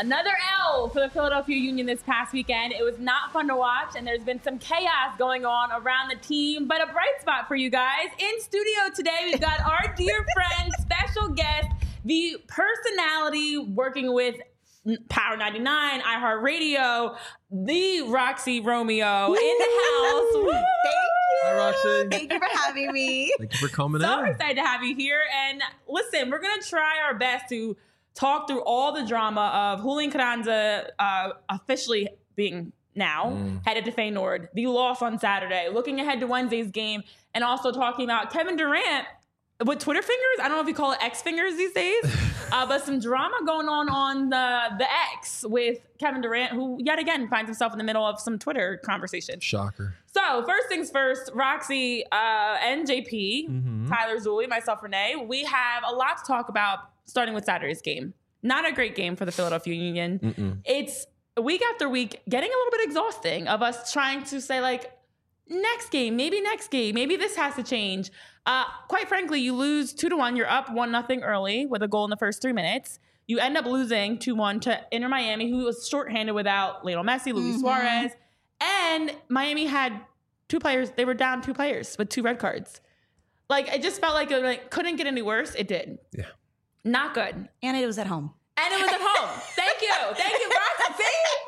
Another L for the Philadelphia Union this past weekend. It was not fun to watch, and there's been some chaos going on around the team, but a bright spot for you guys. In studio today, we've got our dear friend, special guest, the personality working with Power 99, iHeartRadio, the Roxy Romeo in the house. Woo! Thank you. Hi, Roxy. Thank you for having me. Thank you for coming So in. excited to have you here. And listen, we're going to try our best to talk through all the drama of Julian Carranza officially being now headed to Feyenoord, the loss on Saturday, looking ahead to Wednesday's game, and also talking about Kevin Durant with Twitter fingers. I don't know if you call it X fingers these days, but some drama going on the X with Kevin Durant, who yet again finds himself in the middle of some Twitter conversation. Shocker. So first things first, Roxy and JP, Tyler Zulli, myself, Renee, we have a lot to talk about starting with Saturday's game. Not a great game for the Philadelphia Union. It's week after week getting a little bit exhausting of us trying to say like, next game, maybe this has to change. Quite frankly, you lose 2-1. You're up 1-0 early with a goal in the first 3 minutes. You end up losing 2-1 to Inter Miami, who was shorthanded without Lionel Messi, Luis Suarez. And Miami had 2 players. They were down 2 players with 2 red cards. Like, it just felt like it couldn't get any worse. It did. Yeah. Not good. And it was at home. And it was at home. Thank you, Roxy.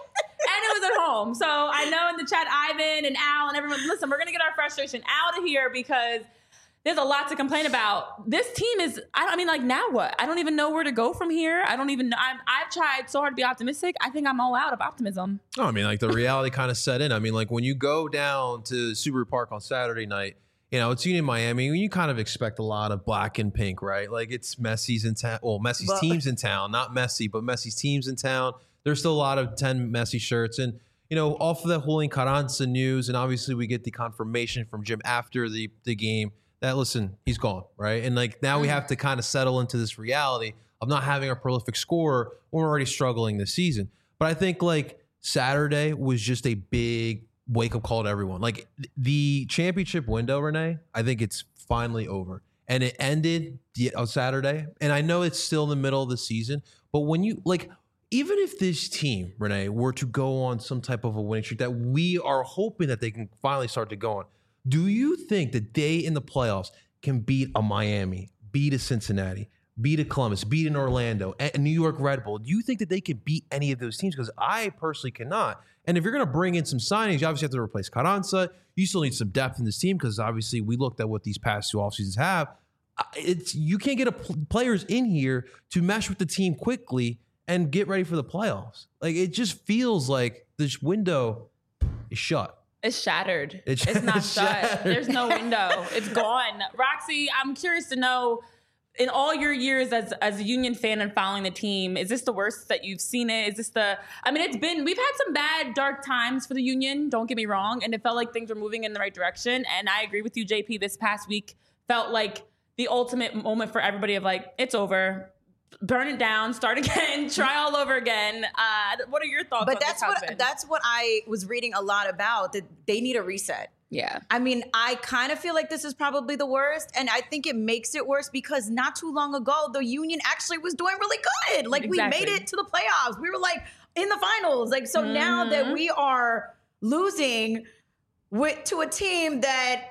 And it was at home. So I know in the chat, Ivan and Al and everyone, listen, we're going to get our frustration out of here because there's a lot to complain about. This team is, I mean, like, now what? I don't even know where to go from here. I don't even know. I've tried so hard to be optimistic. I think I'm all out of optimism. Oh, I mean, like the reality kind of set in. I mean, like when you go down to Subaru Park on Saturday night, you know, it's Union Miami. You kind of expect a lot of black and pink, right? Like it's Messi's in town. Well, Messi's team's in town, not Messi, but Messi's team's in town. There's still a lot of 10 Messi shirts. And, you know, off of that Julian Carranza news, and obviously we get the confirmation from Jim after the game that, listen, he's gone, right? And like now we have to kind of settle into this reality of not having a prolific scorer when we're already struggling this season. But I think like Saturday was just a big wake-up call to everyone. Like the championship window, Renee, I think it's finally over. And it ended on Saturday. And I know it's still in the middle of the season, but when you like, even if this team, Renee, were to go on some type of a winning streak that we are hoping that they can finally start to go on, do you think that they in the playoffs can beat a Miami, beat a Cincinnati, beat a Columbus, beat an Orlando, a New York Red Bull? Do you think that they could beat any of those teams? Because I personally cannot. And if you're going to bring in some signings, you obviously have to replace Carranza. You still need some depth in this team because obviously we looked at what these past 2 offseasons have. You can't get players in here to mesh with the team quickly and get ready for the playoffs. Like it just feels like this window is shut. It's shattered. It's not shut. There's no window. It's gone. Roxy, I'm curious to know, in all your years as a Union fan and following the team, is this the worst that you've seen it? Is this we've had some bad, dark times for the Union, don't get me wrong, and it felt like things were moving in the right direction. And I agree with you, JP, this past week felt like the ultimate moment for everybody of like, it's over. Burn it down, start again, try all over again. What are your thoughts on this? That's what I was reading a lot about, that they need a reset. Yeah. I mean, I kind of feel like this is probably the worst, and I think it makes it worse because not too long ago, the Union actually was doing really good. Like, Exactly. we made it to the playoffs. We were, like, in the finals. Like, so now that we are losing to a team that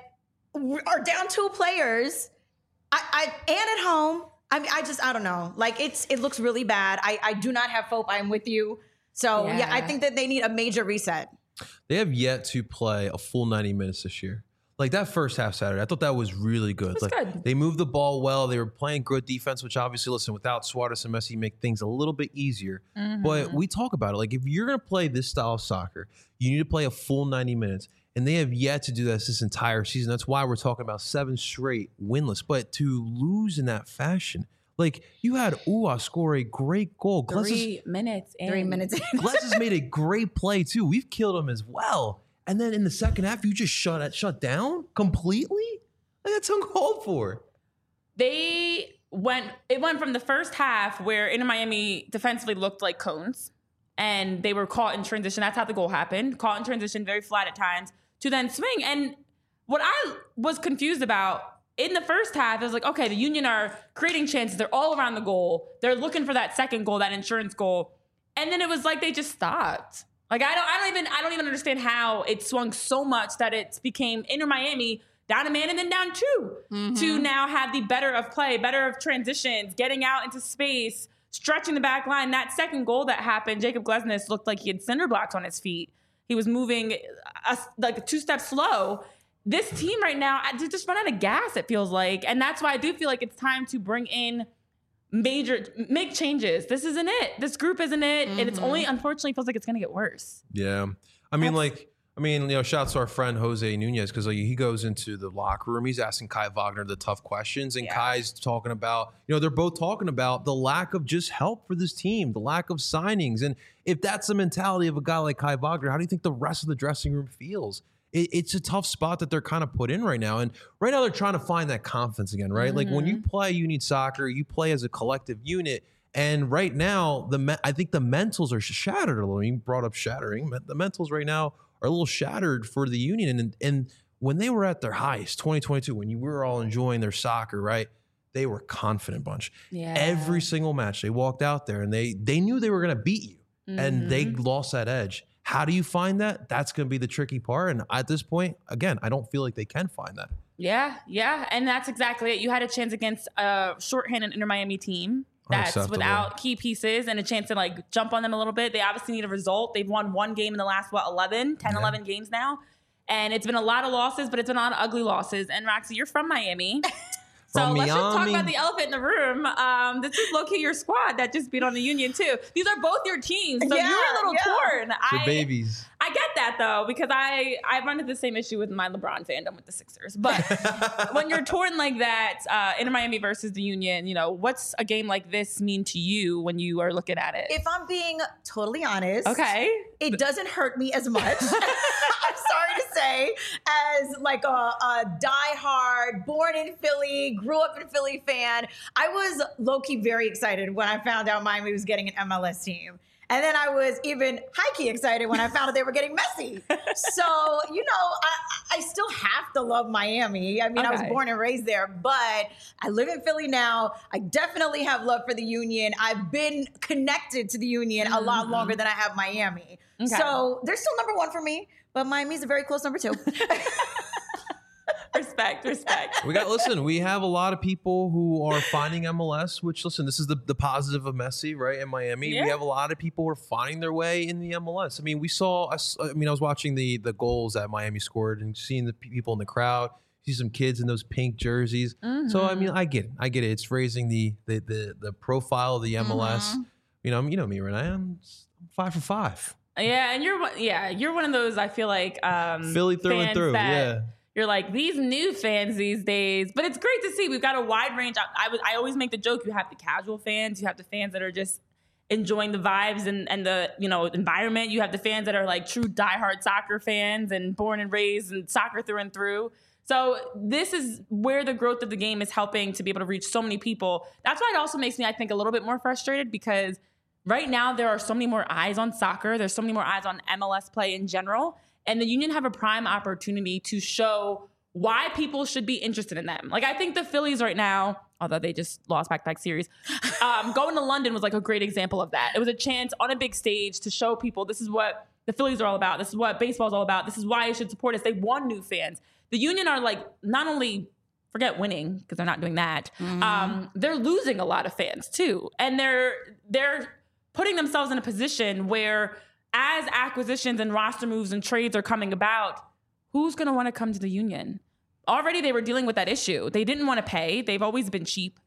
are down 2 players, and at home, I mean, I don't know. Like, it looks really bad. I do not have hope. I'm with you. So, yeah, I think that they need a major reset. They have yet to play a full 90 minutes this year. Like that first half Saturday, I thought that was really good. It was good. They moved the ball well. They were playing good defense, which obviously, listen, without Suarez and Messi, make things a little bit easier. But we talk about it. Like if you're going to play this style of soccer, you need to play a full 90 minutes. And they have yet to do this entire season. That's why we're talking about 7 straight winless. But to lose in that fashion, like you had Ua score a great goal. 3 minutes in. 3 minutes in. Glesses made a great play too. We've killed him as well. And then in the second half, you just shut down completely? Like that's uncalled for. It went from the first half where Inter Miami defensively looked like cones and they were caught in transition. That's how the goal happened. Caught in transition, very flat at times, to then swing. And what I was confused about in the first half, it was like, okay, the Union are creating chances. They're all around the goal. They're looking for that second goal, that insurance goal. And then it was like they just stopped. Like I don't even understand how it swung so much that it became Inter Miami down a man and then down two to now have the better of play, better of transitions, getting out into space, stretching the back line. That second goal that happened, Jacob Glesnes looked like he had cinder blocks on his feet. He was moving like 2 steps slow. This team right now, they just run out of gas, it feels like. And that's why I do feel like it's time to bring in make changes. This isn't it. This group isn't it. And it's only, unfortunately, feels like it's going to get worse. Yeah. I mean, shouts to our friend Jose Nunez, because he goes into the locker room. He's asking Kai Wagner the tough questions, and Kai's talking about, they're both talking about the lack of just help for this team, the lack of signings. And if that's the mentality of a guy like Kai Wagner, how do you think the rest of the dressing room feels? It's a tough spot that they're kind of put in right now. And right now they're trying to find that confidence again, right? Like when you play Union Soccer, you play as a collective unit. And right now, I think the mentals are shattered a little. You brought up shattering. The mentals right now are a little shattered for the Union. And when they were at their highest, 2022, when you were all enjoying their soccer, right? They were a confident bunch. Yeah. Every single match, they walked out there and they knew they were going to beat you. And they lost that edge. How do you find that? That's going to be the tricky part. And at this point, again, I don't feel like they can find that. Yeah. And that's exactly it. You had a chance against a shorthanded Inter Miami team that's without key pieces and a chance to like jump on them a little bit. They obviously need a result. They've won one game in the last, 11 games now. And it's been a lot of losses, but it's been a lot of ugly losses. And Roxy, you're from Miami. So let's just talk about the elephant in the room. This is low-key your squad that just beat on the Union too. These are both your teams, so you're a little torn. Your babies. I get that though, because I run into the same issue with my LeBron fandom with the Sixers. But when you're torn like that, Inter Miami versus the Union, what's a game like this mean to you when you are looking at it? If I'm being totally honest, okay, it doesn't hurt me as much. I'm sorry to say, as like a diehard, born in Philly, grew up in Philly fan. I was low-key very excited when I found out Miami was getting an MLS team. And then I was even high-key excited when I found out they were getting Messi. So, I still have to love Miami. I mean, I was born and raised there, but I live in Philly now. I definitely have love for the Union. I've been connected to the Union a lot longer than I have Miami. Okay. So they're still number one for me, but Miami's a very close number 2. Respect. We have a lot of people who are finding MLS, which, listen, this is the positive of Messi, right, in Miami. Yeah. We have a lot of people who are finding their way in the MLS. I mean, I was watching the goals that Miami scored and seeing the people in the crowd, see some kids in those pink jerseys. So, I mean, I get it. It's raising the profile of the MLS. You know me, Renee. I'm 5 for 5. Yeah, and you're one of those, I feel like, Philly through and through, yeah. You're like, these new fans these days. But it's great to see. We've got a wide range. I always make the joke, you have the casual fans. You have the fans that are just enjoying the vibes and the environment. You have the fans that are like true diehard soccer fans and born and raised and soccer through and through. So this is where the growth of the game is helping to be able to reach so many people. That's why it also makes me, I think, a little bit more frustrated, because right now there are so many more eyes on soccer. There's so many more eyes on MLS play in general. And the Union have a prime opportunity to show why people should be interested in them. Like, I think the Phillies right now, although they just lost back-to-back series, going to London was like a great example of that. It was a chance on a big stage to show people this is what the Phillies are all about. This is what baseball is all about. This is why you should support us. They won new fans. The Union are like, not only forget winning, because they're not doing that, they're losing a lot of fans too. And they're putting themselves in a position where, as acquisitions and roster moves and trades are coming about, who's going to want to come to the Union? Already they were dealing with that issue. They didn't want to pay. They've always been cheap.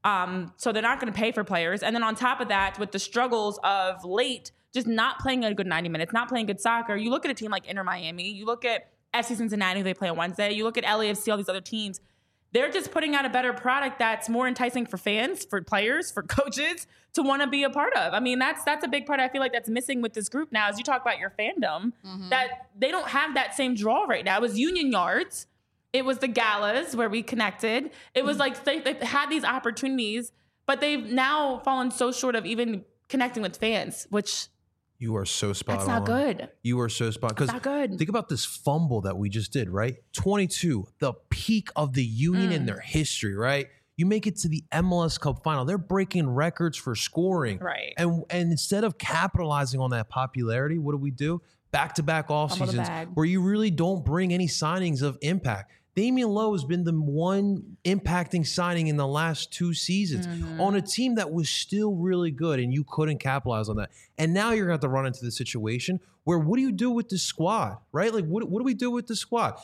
So they're not going to pay for players. And then on top of that, with the struggles of late, just not playing a good 90 minutes, not playing good soccer, you look at a team like Inter Miami, you look at FC Cincinnati, who they play on Wednesday, you look at LAFC, all these other teams, they're just putting out a better product that's more enticing for fans, for players, for coaches to want to be a part of. I mean, that's a big part I feel like that's missing with this group now. As you talk about your fandom, that they don't have that same draw right now. It was Union Yards. It was the galas where we connected. It was like they've had these opportunities, but they've now fallen so short of even connecting with fans, which... You are so spot on. That's not good. You are so spot on. That's not good. Think about this fumble that we just did, right? 22, the peak of the Union in their history, right? You make it to the MLS Cup final. They're breaking records for scoring. Right. And instead of capitalizing on that popularity, what do? Back-to-back off seasons where you really don't bring any signings of impact. Damian Lowe has been the one impacting signing in the last 2 seasons on a team that was still really good, and you couldn't capitalize on that. And now you're going to have to run into the situation where what do you do with the squad, right? Like, what do we do with the squad?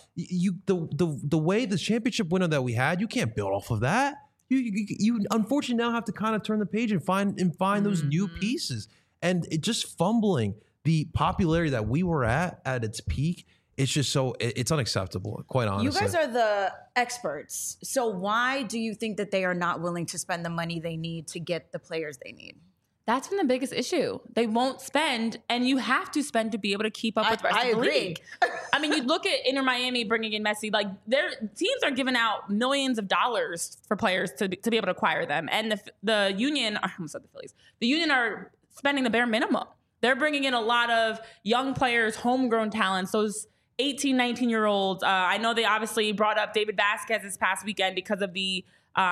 The way the championship window that we had, you can't build off of that. You unfortunately now have to kind of turn the page and find those new pieces. And it just fumbling the popularity that we were at its peak. It's just it's unacceptable, quite honestly. You guys are the experts. So why do you think that they are not willing to spend the money they need to get the players they need? That's been the biggest issue. They won't spend, and you have to spend to be able to keep up with the rest of the league. I mean, you look at Inter Miami bringing in Messi, like their teams are giving out millions of dollars for players to be able to acquire them. And the Union, I almost said the Phillies, the Union are spending the bare minimum. They're bringing in a lot of young players, homegrown talents, those 18, 19-year-olds. I know they obviously brought up David Vasquez this past weekend because of the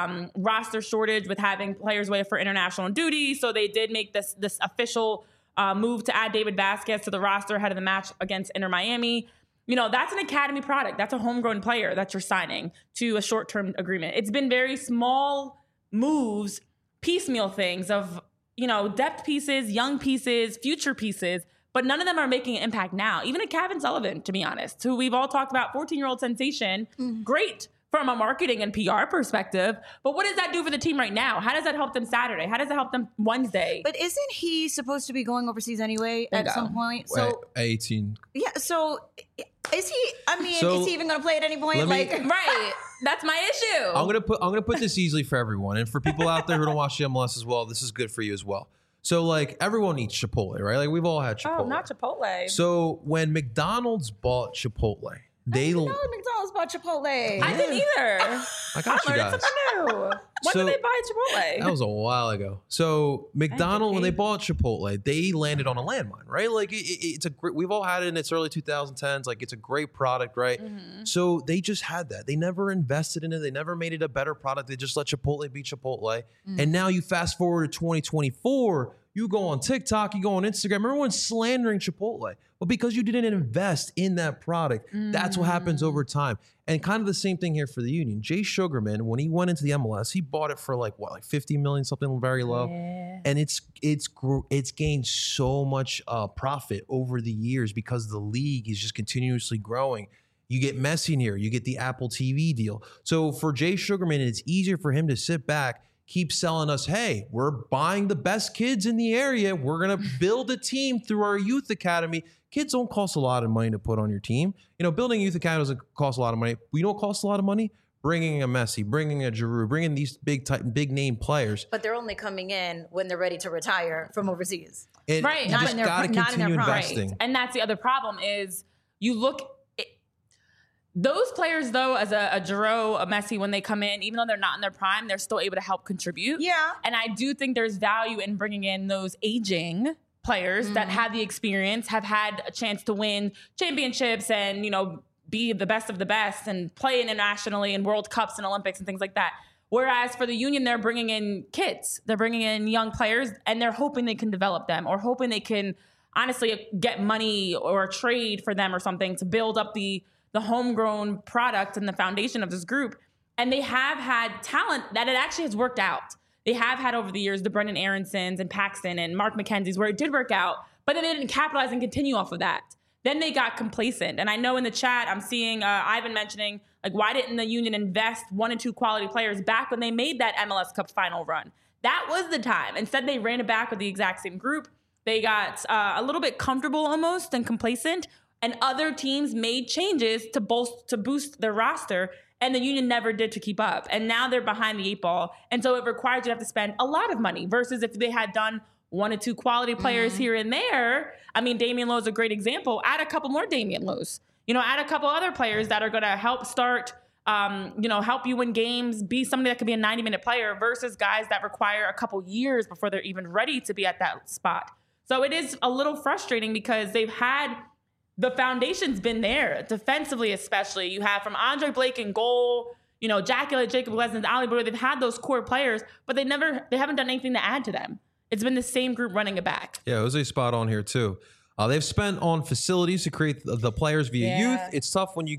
roster shortage with having players away for international duty. So they did make this official move to add David Vasquez to the roster ahead of the match against Inter Miami. You know, that's an academy product. That's a homegrown player that you're signing to a short-term agreement. It's been very small moves, piecemeal things of, you know, depth pieces, young pieces, future pieces, but none of them are making an impact now. Even a Kevin Sullivan, to be honest, who we've all talked about, 14-year-old sensation, great from a marketing and PR perspective. But what does that do for the team right now? How does that help them Saturday? How does that help them Wednesday? But isn't he supposed to be going overseas anyway at some point? So 18. Yeah, so is he, is he even going to play at any point? Right. That's my issue. I'm gonna put this easily for everyone. And for people out there who don't watch the MLS as well, this is good for you as well. So, like, everyone eats Chipotle, right? Like, we've all had Chipotle. Oh, not Chipotle. So, when McDonald's bought Chipotle, they... I didn't know McDonald's bought Chipotle. I didn't either. I got you guys. When did they buy Chipotle? That was a while ago. So, McDonald's, when they bought Chipotle, they landed on a landmine, right? Like, it's a great... We've all had it in its early 2010s. Like, it's a great product, right? So, they just had that. They never invested in it. They never made it a better product. They just let Chipotle be Chipotle. And now you fast forward to 2024... You go on TikTok, you go on Instagram, everyone's slandering Chipotle. But because you didn't invest in that product, that's what happens over time. And kind of the same thing here for the Union. Jay Sugarman, when he went into the MLS, he bought it for like 50 million, something very low. Yeah. And it's gained so much profit over the years because the league is just continuously growing. You get Messi in here, you get the Apple TV deal. So for Jay Sugarman, it's easier for him to sit back, keep selling us, hey, we're buying the best kids in the area. We're going to build a team through our youth academy. Kids don't cost a lot of money to put on your team. You know, building a youth academy doesn't cost a lot of money. We don't cost a lot of money. Bringing a Messi, bringing a Giroud, bringing these big name players. But they're only coming in when they're ready to retire from overseas. Right. You just got to continue investing. Right. And that's the other problem is you look... Those players, though, as a Giroud, a Messi, when they come in, even though they're not in their prime, they're still able to help contribute. Yeah. And I do think there's value in bringing in those aging players that have the experience, have had a chance to win championships and, you know, be the best of the best and play internationally in World Cups and Olympics and things like that. Whereas for the Union, they're bringing in kids. They're bringing in young players, and they're hoping they can develop them or hoping they can, honestly, get money or trade for them or something to build up the homegrown product and the foundation of this group. And they have had talent that it actually has worked out. They have had over the years the Brendan Aaronsons and Paxton and Mark McKenzie's where it did work out, but then they didn't capitalize and continue off of that. Then they got complacent. And I know in the chat, I'm seeing Ivan mentioning, like, why didn't the Union invest 1 and 2 quality players back when they made that MLS Cup final run? That was the time. Instead, they ran it back with the exact same group. They got a little bit comfortable almost and complacent. And other teams made changes to boost their roster, and the Union never did to keep up. And now they're behind the 8 ball. And so it requires you to have to spend a lot of money versus if they had done 1 or 2 quality players here and there. I mean, Damian Lowe is a great example. Add a couple more Damian Lowe's. You know, add a couple other players that are going to help start, help you win games, be somebody that could be a 90-minute player versus guys that require a couple years before they're even ready to be at that spot. So it is a little frustrating because they've had... The foundation's been there, defensively especially. You have from Andre Blake in goal, Jackula, Jacob Glesnes, Ali Boyer, they've had those core players, but they haven't done anything to add to them. It's been the same group running it back. Yeah, Jose spot on here too. They've spent on facilities to create the players via youth. It's tough when you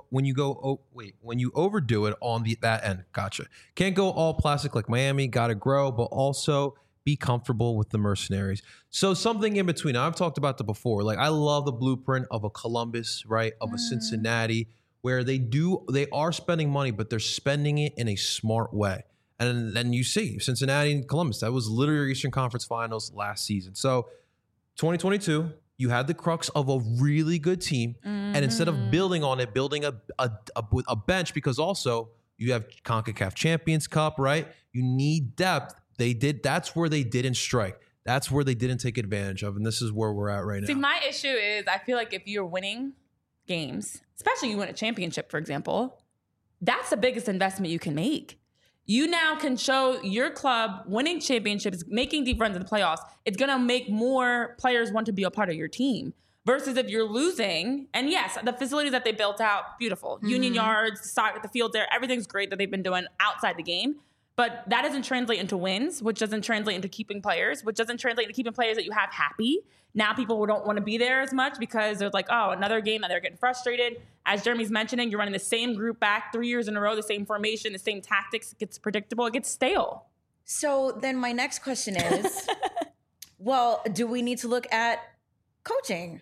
overdo it on that end. Gotcha. Can't go all plastic like Miami. Got to grow, but also be comfortable with the mercenaries. So something in between. I've talked about that before. Like, I love the blueprint of a Columbus, right? Of a Cincinnati, where they are spending money, but they're spending it in a smart way. And then you see Cincinnati and Columbus. That was literally Eastern Conference Finals last season. So 2022, you had the crux of a really good team. And instead of building on it, building a bench, because also you have CONCACAF Champions Cup, right? You need depth. That's where they didn't strike. That's where they didn't take advantage of. And this is where we're at right now. See, my issue is I feel like if you're winning games, especially you win a championship, for example, that's the biggest investment you can make. You now can show your club winning championships, making deep runs in the playoffs. It's going to make more players want to be a part of your team. Versus if you're losing, and yes, the facilities that they built out, beautiful. Union Yards, the field there, everything's great that they've been doing outside the game. But that doesn't translate into wins, which doesn't translate into keeping players, which doesn't translate into keeping players that you have happy. Now people don't want to be there as much because they're like, oh, another game that they're getting frustrated. As Jeremy's mentioning, you're running the same group back 3 years in a row, the same formation, the same tactics. It gets predictable. It gets stale. So then my next question is, well, do we need to look at coaching?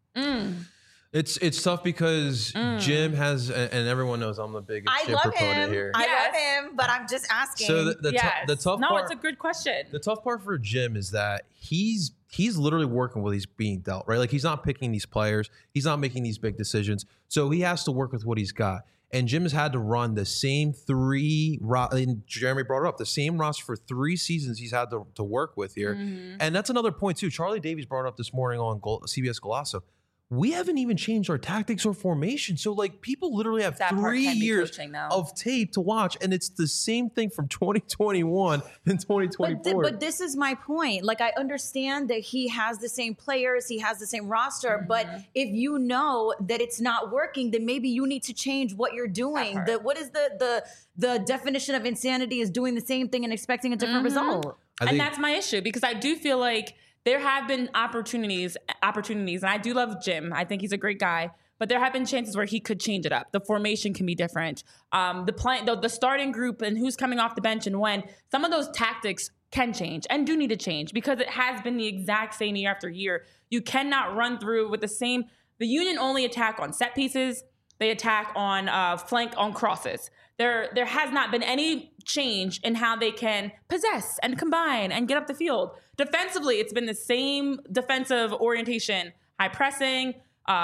It's tough because Jim has, and everyone knows I'm the biggest Jim proponent here. I love him, but I'm just asking. So the tough part. No, it's a good question. The tough part for Jim is that he's literally working with he's being dealt, right? Like, he's not picking these players. He's not making these big decisions. So he has to work with what he's got. And Jim has had to run the same and Jeremy brought it up, the same roster for 3 seasons he's had to work with here. And that's another point too. Charlie Davies brought it up this morning on CBS Golazo. We haven't even changed our tactics or formation. So, like, people literally have 3 years of tape to watch, and it's the same thing from 2021 and 2024. But this is my point. Like, I understand that he has the same players, he has the same roster, but if you know that it's not working, then maybe you need to change what you're doing. What is the definition of insanity is doing the same thing and expecting a different result. And that's my issue, because I do feel like there have been opportunities, and I do love Jim. I think he's a great guy, but there have been chances where he could change it up. The formation can be different. The starting group and who's coming off the bench and when, some of those tactics can change and do need to change, because it has been the exact same year after year. You cannot run through with the same. The Union only attack on set pieces. They attack on flank on crosses. There has not been any change in how they can possess and combine and get up the field. Defensively, it's been the same defensive orientation, high pressing,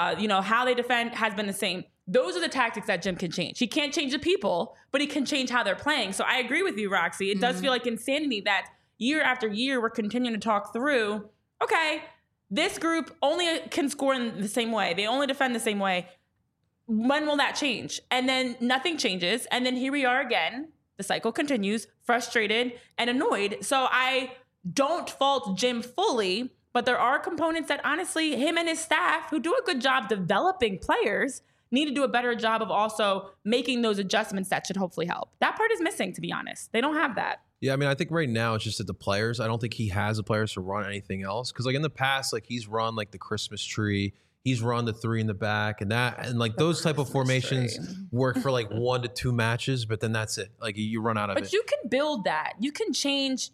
how they defend has been the same. Those are the tactics that Jim can change. He can't change the people, but he can change how they're playing. So I agree with you, Roxy. It does feel like insanity that year after year we're continuing to talk through, okay, this group only can score in the same way. They only defend the same way. When will that change? And then nothing changes. And then here we are again. The cycle continues, frustrated and annoyed. So I don't fault Jim fully, but there are components that honestly, him and his staff, who do a good job developing players, need to do a better job of also making those adjustments that should hopefully help. That part is missing, to be honest. They don't have that. Yeah, I mean, I think right now it's just that the players, I don't think he has the players to run anything else. Because, like, in the past, like, he's run, like, the Christmas tree. He's run the 3 in the back and like those type of formations work for like 1 to 2 matches, but then that's it. Like, you run out of it. But you can build that. You can change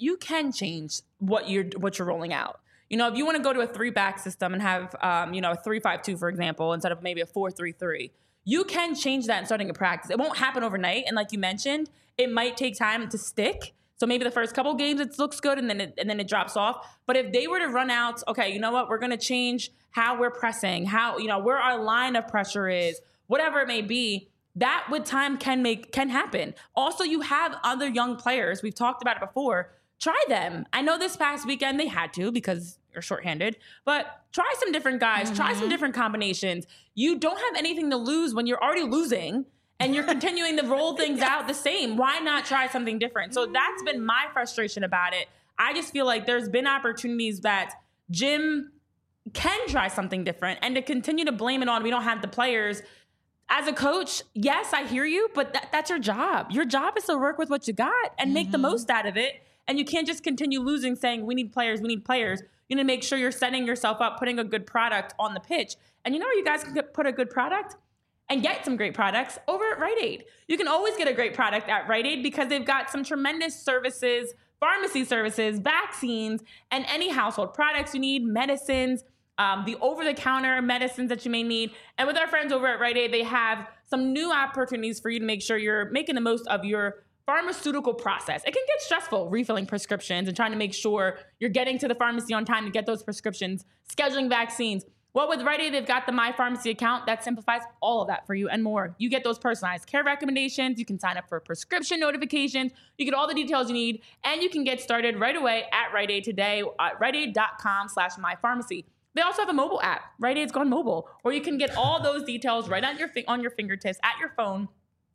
what you're rolling out. If you want to go to a 3-back system and have a 3-5-2, for example, instead of maybe a 4-3-3, you can change that in starting a practice. It won't happen overnight. And like you mentioned, it might take time to stick. So maybe the first couple games it looks good and then it drops off. But if they were to run out, okay, you know what? We're going to change how we're pressing, how, where our line of pressure is, whatever it may be, that with time can happen. Also, you have other young players. We've talked about it before. Try them. I know this past weekend they had to because you're shorthanded, but try some different guys, try some different combinations. You don't have anything to lose when you're already losing. And you're continuing to roll things out the same. Why not try something different? So that's been my frustration about it. I just feel like there's been opportunities that Jim can try something different, and to continue to blame it on we don't have the players. as a coach, yes, I hear you, but that's your job. Your job is to work with what you got and make the most out of it. And you can't just continue losing saying, we need players, we need players. You need to make sure you're setting yourself up, putting a good product on the pitch. And you know where you guys can put a good product and get some great products? Over at Rite Aid. You can always get a great product at Rite Aid because they've got some tremendous services, pharmacy services, vaccines, and any household products you need, medicines, the over-the-counter medicines that you may need. And with our friends over at Rite Aid, they have some new opportunities for you to make sure you're making the most of your pharmaceutical process. It can get stressful refilling prescriptions and trying to make sure you're getting to the pharmacy on time to get those prescriptions, scheduling vaccines. Well, with Rite Aid, they've got the My Pharmacy account that simplifies all of that for you and more. You get those personalized care recommendations. You can sign up for prescription notifications. You get all the details you need, and you can get started right away at Rite Aid today at riteaid.com/mypharmacy. They also have a mobile app. Rite Aid's gone mobile, where you can get all those details right on your fingertips at your phone.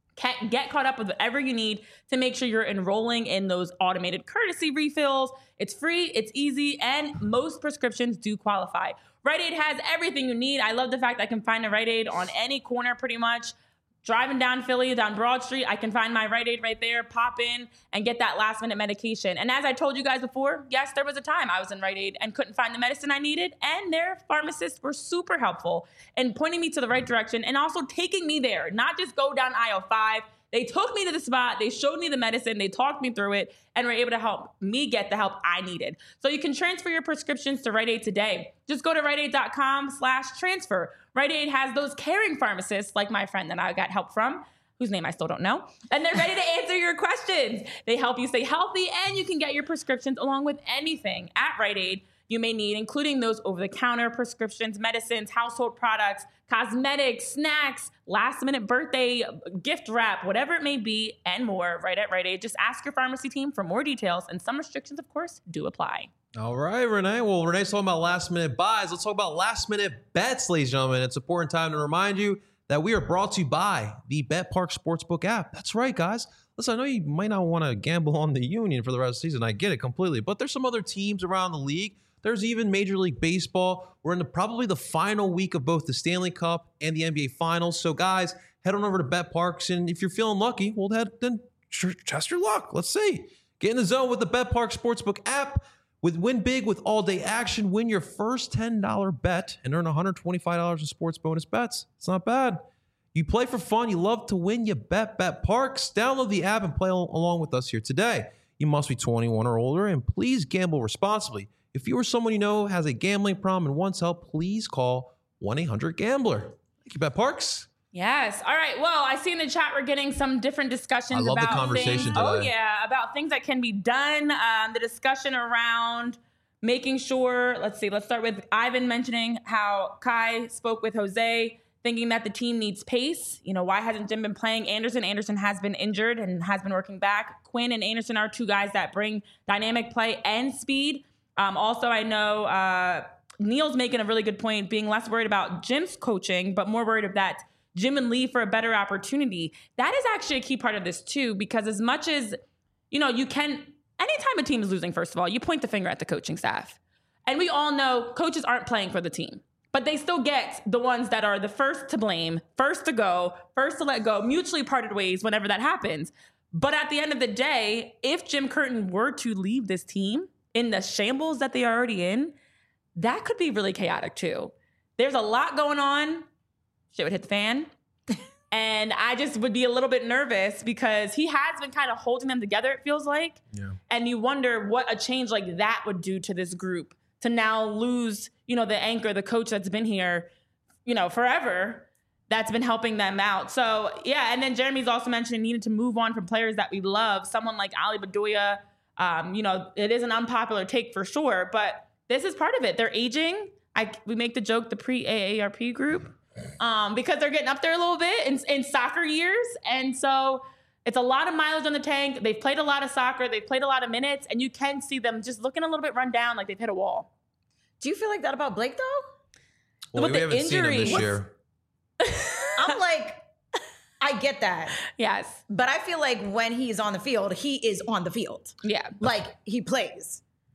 Get caught up with whatever you need to make sure you're enrolling in those automated courtesy refills. It's free, it's easy, and most prescriptions do qualify. Rite Aid has everything you need. I love the fact I can find a Rite Aid on any corner pretty much. Driving down Philly, down Broad Street, I can find my Rite Aid right there, pop in, and get that last-minute medication. And as I told you guys before, yes, there was a time I was in Rite Aid and couldn't find the medicine I needed, and their pharmacists were super helpful in pointing me to the right direction and also taking me there, not just go down aisle 5. They took me to the spot, they showed me the medicine, they talked me through it, and were able to help me get the help I needed. So you can transfer your prescriptions to Rite Aid today. Just go to riteaid.com/transfer. Rite Aid has those caring pharmacists, like my friend that I got help from, whose name I still don't know, and they're ready to answer your questions. They help you stay healthy, and you can get your prescriptions along with anything at Rite Aid you may need, including those over-the-counter prescriptions, medicines, household products, cosmetics, snacks, last-minute birthday gift wrap, whatever it may be, and more, right at Rite Aid. Just ask your pharmacy team for more details, and some restrictions, of course, do apply. All right, Renee. Well, Renee's talking about last-minute buys. Let's talk about last-minute bets, ladies and gentlemen. It's an important time to remind you that we are brought to you by the BetParx Sportsbook app. That's right, guys. Listen, I know you might not want to gamble on the Union for the rest of the season. I get it completely. But there's some other teams around the league. There's even Major League Baseball. We're in probably the final week of both the Stanley Cup and the NBA Finals. So, guys, head on over to BetParx. And if you're feeling lucky, well, then test your luck. Let's see. Get in the zone with the BetParx Sportsbook app. Win big with all-day action. Win your first $10 bet and earn $125 in sports bonus bets. It's not bad. You play for fun. You love to win. You bet BetParx. Download the app and play along with us here today. You must be 21 or older, and please gamble responsibly. If you or someone you know has a gambling problem and wants help, please call 1-800-GAMBLER. Thank you, BetParx. Yes. All right. Well, I see in the chat we're getting some different discussions about the conversation things. today. Oh, yeah. About things that can be done. The discussion around making sure, let's start with Ivan mentioning how Kai spoke with Jose, thinking that the team needs pace. You know, why hasn't Jim been playing Anderson? Anderson has been injured and has been working back. Quinn and Anderson are two guys that bring dynamic play and speed. Also, I know Neil's making a really good point, being less worried about Jim's coaching, but more worried about Jim and Lee for a better opportunity. That is actually a key part of this too, because as much as, you know, anytime a team is losing, first of all, you point the finger at the coaching staff. And we all know coaches aren't playing for the team, but they still get the ones that are the first to blame, first to go, first to let go, mutually parted ways whenever that happens. But at the end of the day, if Jim Curtin were to leave this team in the shambles that they are already in, that could be really chaotic too. There's a lot going on. Shit would hit the fan. And I just would be a little bit nervous because he has been kind of holding them together, it feels like. Yeah. And you wonder what a change like that would do to this group to now lose, you know, the anchor, the coach that's been here, you know, forever, that's been helping them out. So, yeah. And then Jeremy's also mentioning needed to move on from players that we love. Someone like Ali Bedoya, you know, it is an unpopular take for sure, but this is part of it. They're aging. We make the joke, the pre-AARP group, because they're getting up there a little bit in soccer years. And so it's a lot of mileage on the tank. They've played a lot of soccer. They've played a lot of minutes, and you can see them just looking a little bit run down, like they've hit a wall. Do you feel like that about Blake, though? Well, we haven't seen him this year. I'm like, I get that. Yes. But I feel like when he's on the field, he is on the field. Yeah. Like, he plays.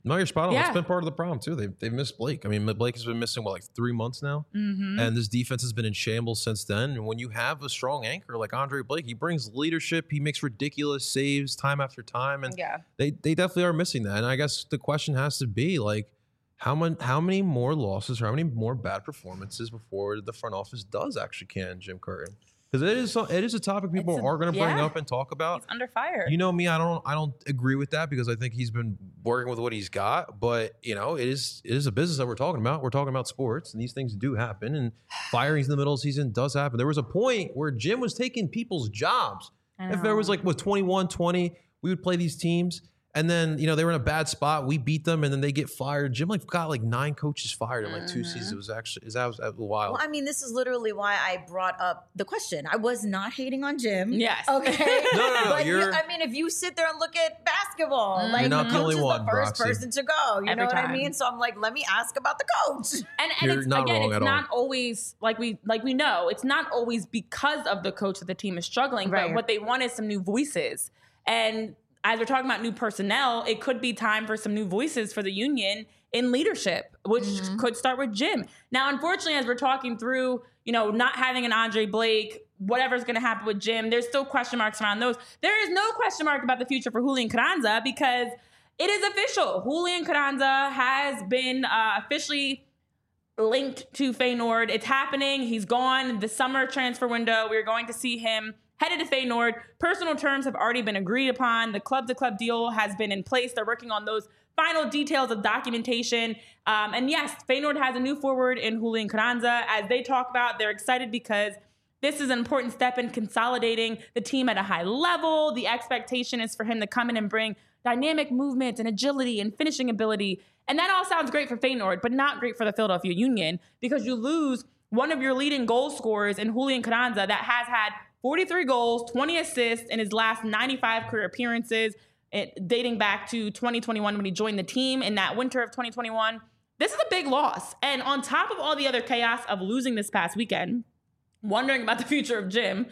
No, you're spot on. Yeah. That's been part of the problem too. They've missed Blake. I mean, Blake has been missing like 3 months now, and this defense has been in shambles since then. And when you have a strong anchor like Andre Blake, he brings leadership. He makes ridiculous saves time after time, and they definitely are missing that. And I guess the question has to be like, how many more losses or how many more bad performances before the front office does actually can Jim Curtin? Because it is a topic people are going to bring up and talk about. He's under fire. You know me, I don't agree with that because I think he's been working with what he's got. But it is a business that we're talking about. We're talking about sports, and these things do happen. And firings in the middle of the season does happen. There was a point where Jim was taking people's jobs. If there was 21, 20, we would play these teams. And then, they were in a bad spot. We beat them, and then they get fired. Jim got 9 coaches fired in 2 seasons. It was wild. Well, I mean, this is literally why I brought up the question. I was not hating on Jim. Yes. Okay. No. But if you sit there and look at basketball, you're not the only one, the first Roxy. person to go. You Every know what time. I mean? So I'm like, let me ask about the coach. And You're it's, not again, wrong it's at not all. always like we know it's not always because of the coach that the team is struggling, Right. but what they want is some new voices. And as we're talking about new personnel, it could be time for some new voices for the Union in leadership, which could start with Jim. Now, unfortunately, as we're talking through, not having an Andre Blake, whatever's going to happen with Jim, there's still question marks around those. There is no question mark about the future for Julian Carranza because it is official. Julian Carranza has been officially linked to Feyenoord. It's happening. He's gone. The summer transfer window, we're going to see him headed to Feyenoord. Personal terms have already been agreed upon. The club-to-club deal has been in place. They're working on those final details of documentation. And yes, Feyenoord has a new forward in Julian Carranza. As they talk about, they're excited because this is an important step in consolidating the team at a high level. The expectation is for him to come in and bring dynamic movement and agility and finishing ability. And that all sounds great for Feyenoord, but not great for the Philadelphia Union because you lose one of your leading goal scorers in Julian Carranza that has had 43 goals, 20 assists in his last 95 career appearances, dating back to 2021 when he joined the team in that winter of 2021. This is a big loss. And on top of all the other chaos of losing this past weekend, wondering about the future of Jim,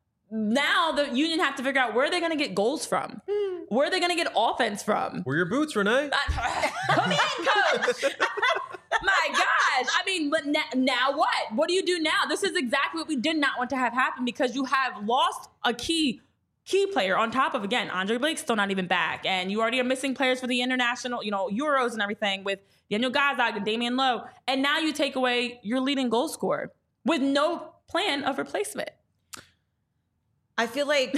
now the Union have to figure out where they're going to get goals from. Where are they going to get offense from? Where are your boots, Renee? Come in, coach. My gosh. I mean, but now what? What do you do now? This is exactly what we did not want to have happen because you have lost a key player on top of, again, Andre Blake's still not even back. And you already are missing players for the international, Euros and everything with Daniel Gazdag and Damian Lowe. And now you take away your leading goal scorer with no plan of replacement. I feel like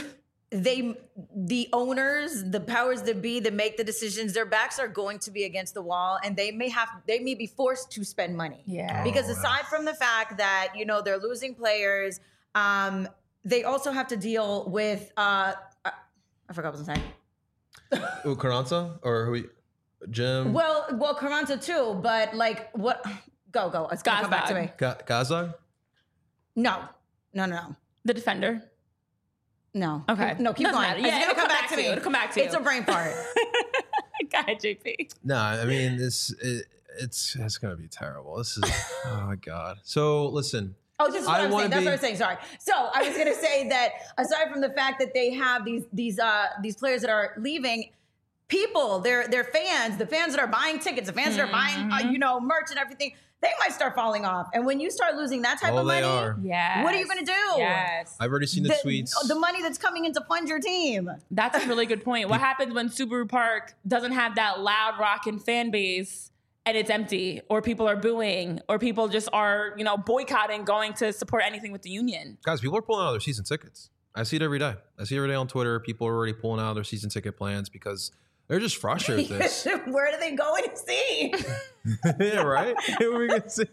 the owners, the powers that be that make the decisions, their backs are going to be against the wall and they may be forced to spend money. Yeah. Because aside from the fact that, they're losing players, they also have to deal with, I forgot what I was saying. Carranza or Jim? Well, Carranza too, but what? Go. It's gonna come back to me. Gazdag? No. The defender. No. Okay. No, keep Doesn't going. matter. It's Yeah, gonna come back to me. It'll come back to you. It's a brain part. Go ahead, JP. No, I mean it's gonna be terrible. This is oh my god. So listen. Oh, this is what I'm saying. That's what I'm saying. Sorry. So I was gonna say that aside from the fact that they have these players that are leaving, people, they're fans, the fans that are buying tickets, the fans that are buying merch and everything, they might start falling off. And when you start losing that type of money, what are you going to do? Yes. I've already seen the tweets. The money that's coming in to fund your team. That's a really good point. What happens when Subaru Park doesn't have that loud rockin' fan base and it's empty, or people are booing, or people just are, boycotting going to support anything with the Union? Guys, people are pulling out their season tickets. I see it every day. I see it every day on Twitter. People are already pulling out their season ticket plans because they're just frustrated with this. Where do they go and see? Yeah, right? Who are we going to see?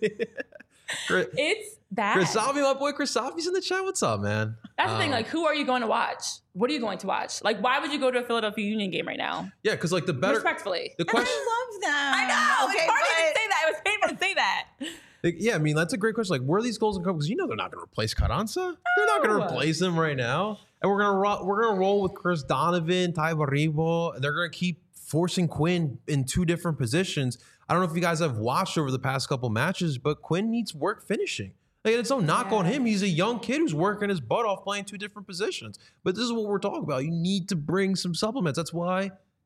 It's bad. Chris Salvi, my boy Chris Salvi's in the chat. What's up, man? That's the thing. Who are you going to watch? What are you going to watch? Why would you go to a Philadelphia Union game right now? Yeah, because the better... Respectfully. The question... I love that. I know. It's hard to even say that. It was painful to say that. Yeah, I mean, that's a great question. Where are these goals going to come? Because they're not going to replace Carranza. They're not going to replace him right now. And we're gonna roll with Chris Donovan, Ty Baribo, and they're going to keep forcing Quinn in 2 different positions. I don't know if you guys have watched over the past couple matches, but Quinn needs work finishing. It's no knock on him. He's a young kid who's working his butt off playing 2 different positions. But this is what we're talking about. You need to bring some supplements. That's why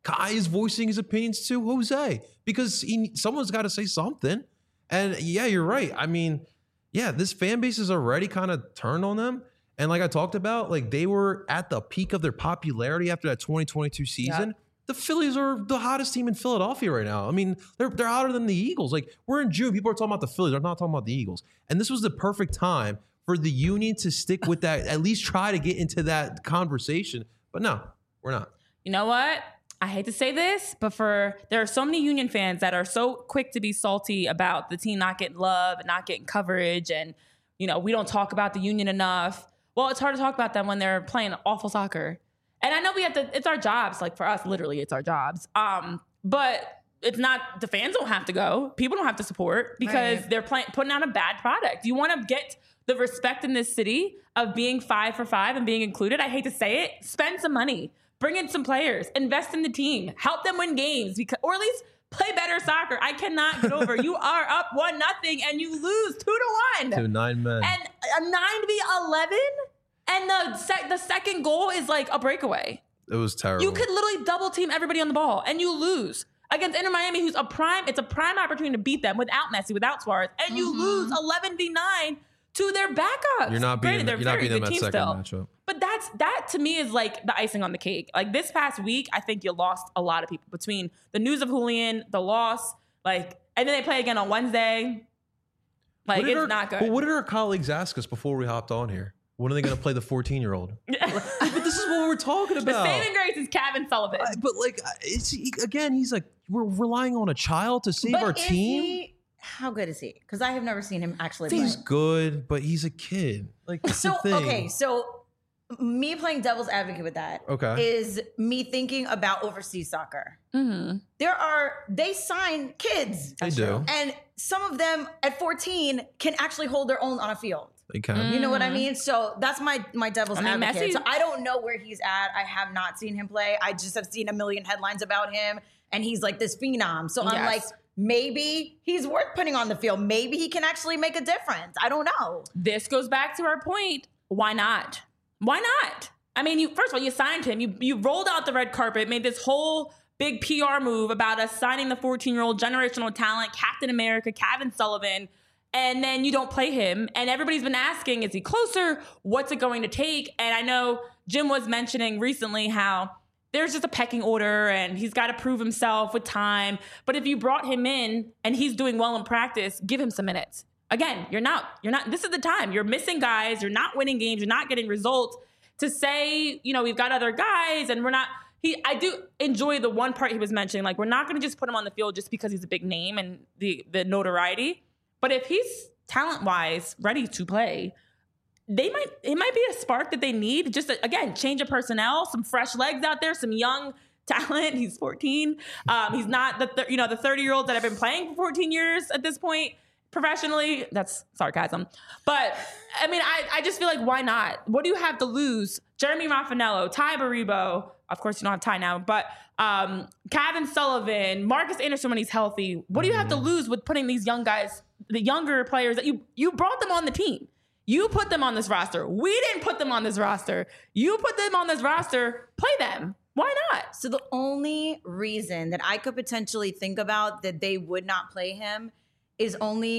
Kai is voicing his opinions too. Jose, because someone's got to say something. And yeah, you're right. I mean, yeah, this fan base is already kind of turned on them. And like I talked about, like they were at the peak of their popularity after that 2022 season. Yep. The Phillies are the hottest team in Philadelphia right now. I mean, they're hotter than the Eagles. Like we're in June, people are talking about the Phillies. They're not talking about the Eagles. And this was the perfect time for the Union to stick with that, at least try to get into that conversation. But no, we're not. You know what? I hate to say this, but there are so many Union fans that are so quick to be salty about the team not getting love and not getting coverage. And, you know, we don't talk about the Union enough. Well, it's hard to talk about them when they're playing awful soccer. And I know it's our jobs. Like for us, literally, it's our jobs. But it's not, the fans don't have to go. People don't have to support because they're putting out a bad product. You want to get the respect in this city of being 5 for 5 and being included. I hate to say it. Spend some money. Bring in some players. Invest in the team. Help them win games. Or at least play better soccer. I cannot get over. You are up 1-0 and you lose 2-1. To 9 men. And a 9-11. And the second goal is like a breakaway. It was terrible. You could literally double team everybody on the ball and you lose against Inter Miami, who's it's a prime opportunity to beat them without Messi, without Suarez, and you lose 11-9 to their backups. You're not beating them at second matchup. But that to me is like the icing on the cake. Like this past week, I think you lost a lot of people between the news of Julian, the loss, and then they play again on Wednesday. It's not good. But what did our colleagues ask us before we hopped on here? When are they going to play the 14-year-old? But this is what we're talking about. The saving grace is Kevin Sullivan. But he's like, we're relying on a child to save our team. How good is he? Because I have never seen him actually play. He's good, but he's a kid. So me playing devil's advocate with that is me thinking about overseas soccer. Mm-hmm. They sign kids. They do. And some of them at 14 can actually hold their own on a field. They can. You know what I mean? So that's my devil's advocate. So I don't know where he's at. I have not seen him play. I just have seen a million headlines about him. And he's like this phenom. So I'm like, maybe he's worth putting on the field. Maybe he can actually make a difference. I don't know. This goes back to our point. Why not? Why not? I mean, first of all, you signed him. You rolled out the red carpet, made this whole big PR move about us signing the 14-year-old generational talent, Captain America, Kevin Sullivan, and then you don't play him. And everybody's been asking, is he closer? What's it going to take? And I know Jim was mentioning recently how there's just a pecking order and he's got to prove himself with time. But if you brought him in and he's doing well in practice, give him some minutes. Again, you're not, this is the time. You're missing guys. You're not winning games. You're not getting results. To say, we've got other guys and we're not, I do enjoy the one part he was mentioning, like we're not going to just put him on the field just because he's a big name and the notoriety. But if he's talent-wise ready to play, it might be a spark that they need. Just again, change of personnel, some fresh legs out there, some young talent. He's 14. He's not the 30-year-olds that have been playing for 14 years at this point professionally. That's sarcasm. But I mean, I just feel like, why not? What do you have to lose? Jeremy Raffanello, Ty Baribo. Of course, you don't have Ty now, but Kevin Sullivan, Marcus Anderson when he's healthy. What do you have to lose with putting these young guys, the younger players that you brought them on the team? You put them on this roster. We didn't put them on this roster. You put them on this roster. Play them. Why not? So the only reason that I could potentially think about that they would not play him is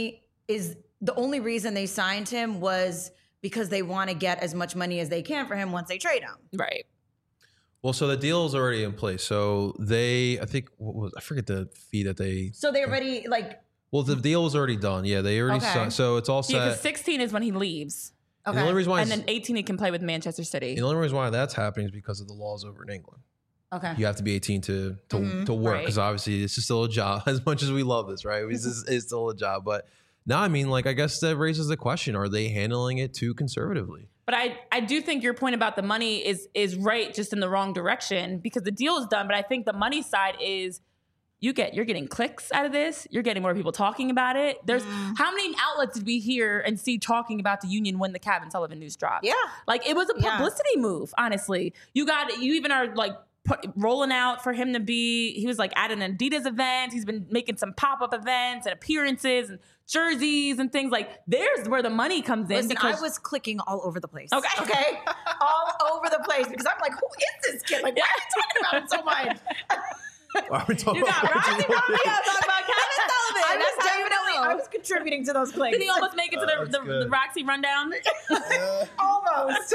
the only reason they signed him was because they want to get as much money as they can for him once they trade him. Right. Well, so the deal is already in place. So I forget the fee that they. So they already Well, the deal was already done. Yeah, they already signed. So it's all set. Yeah, because 16 is when he leaves. Okay. The only reason why and then 18 he can play with Manchester City. The only reason why that's happening is because of the laws over in England. Okay. You have to be 18 to work because obviously this is still a job. As much as we love this, right? It's still a job. But no, I mean, I guess that raises the question: are they handling it too conservatively? But I do think your point about the money is right, just in the wrong direction because the deal is done. But I think the money side is you're getting clicks out of this. You're getting more people talking about it. There's how many outlets did we hear and see talking about the Union when the Kevin Sullivan news dropped? Yeah. It was a publicity move, honestly. You even are rolling out for him to be. He was like at an Adidas event. He's been making some pop-up events and appearances and jerseys and things. Like, there's where the money comes in. Listen, I was clicking all over the place. Okay. All over the place because I'm like, who is this kid? Like, why are you talking about him so much? Why are we talking You got about Roxy Romeo talking about Kevin Sullivan. I was contributing to those clicks. Did he almost make it to the Roxy rundown? Almost.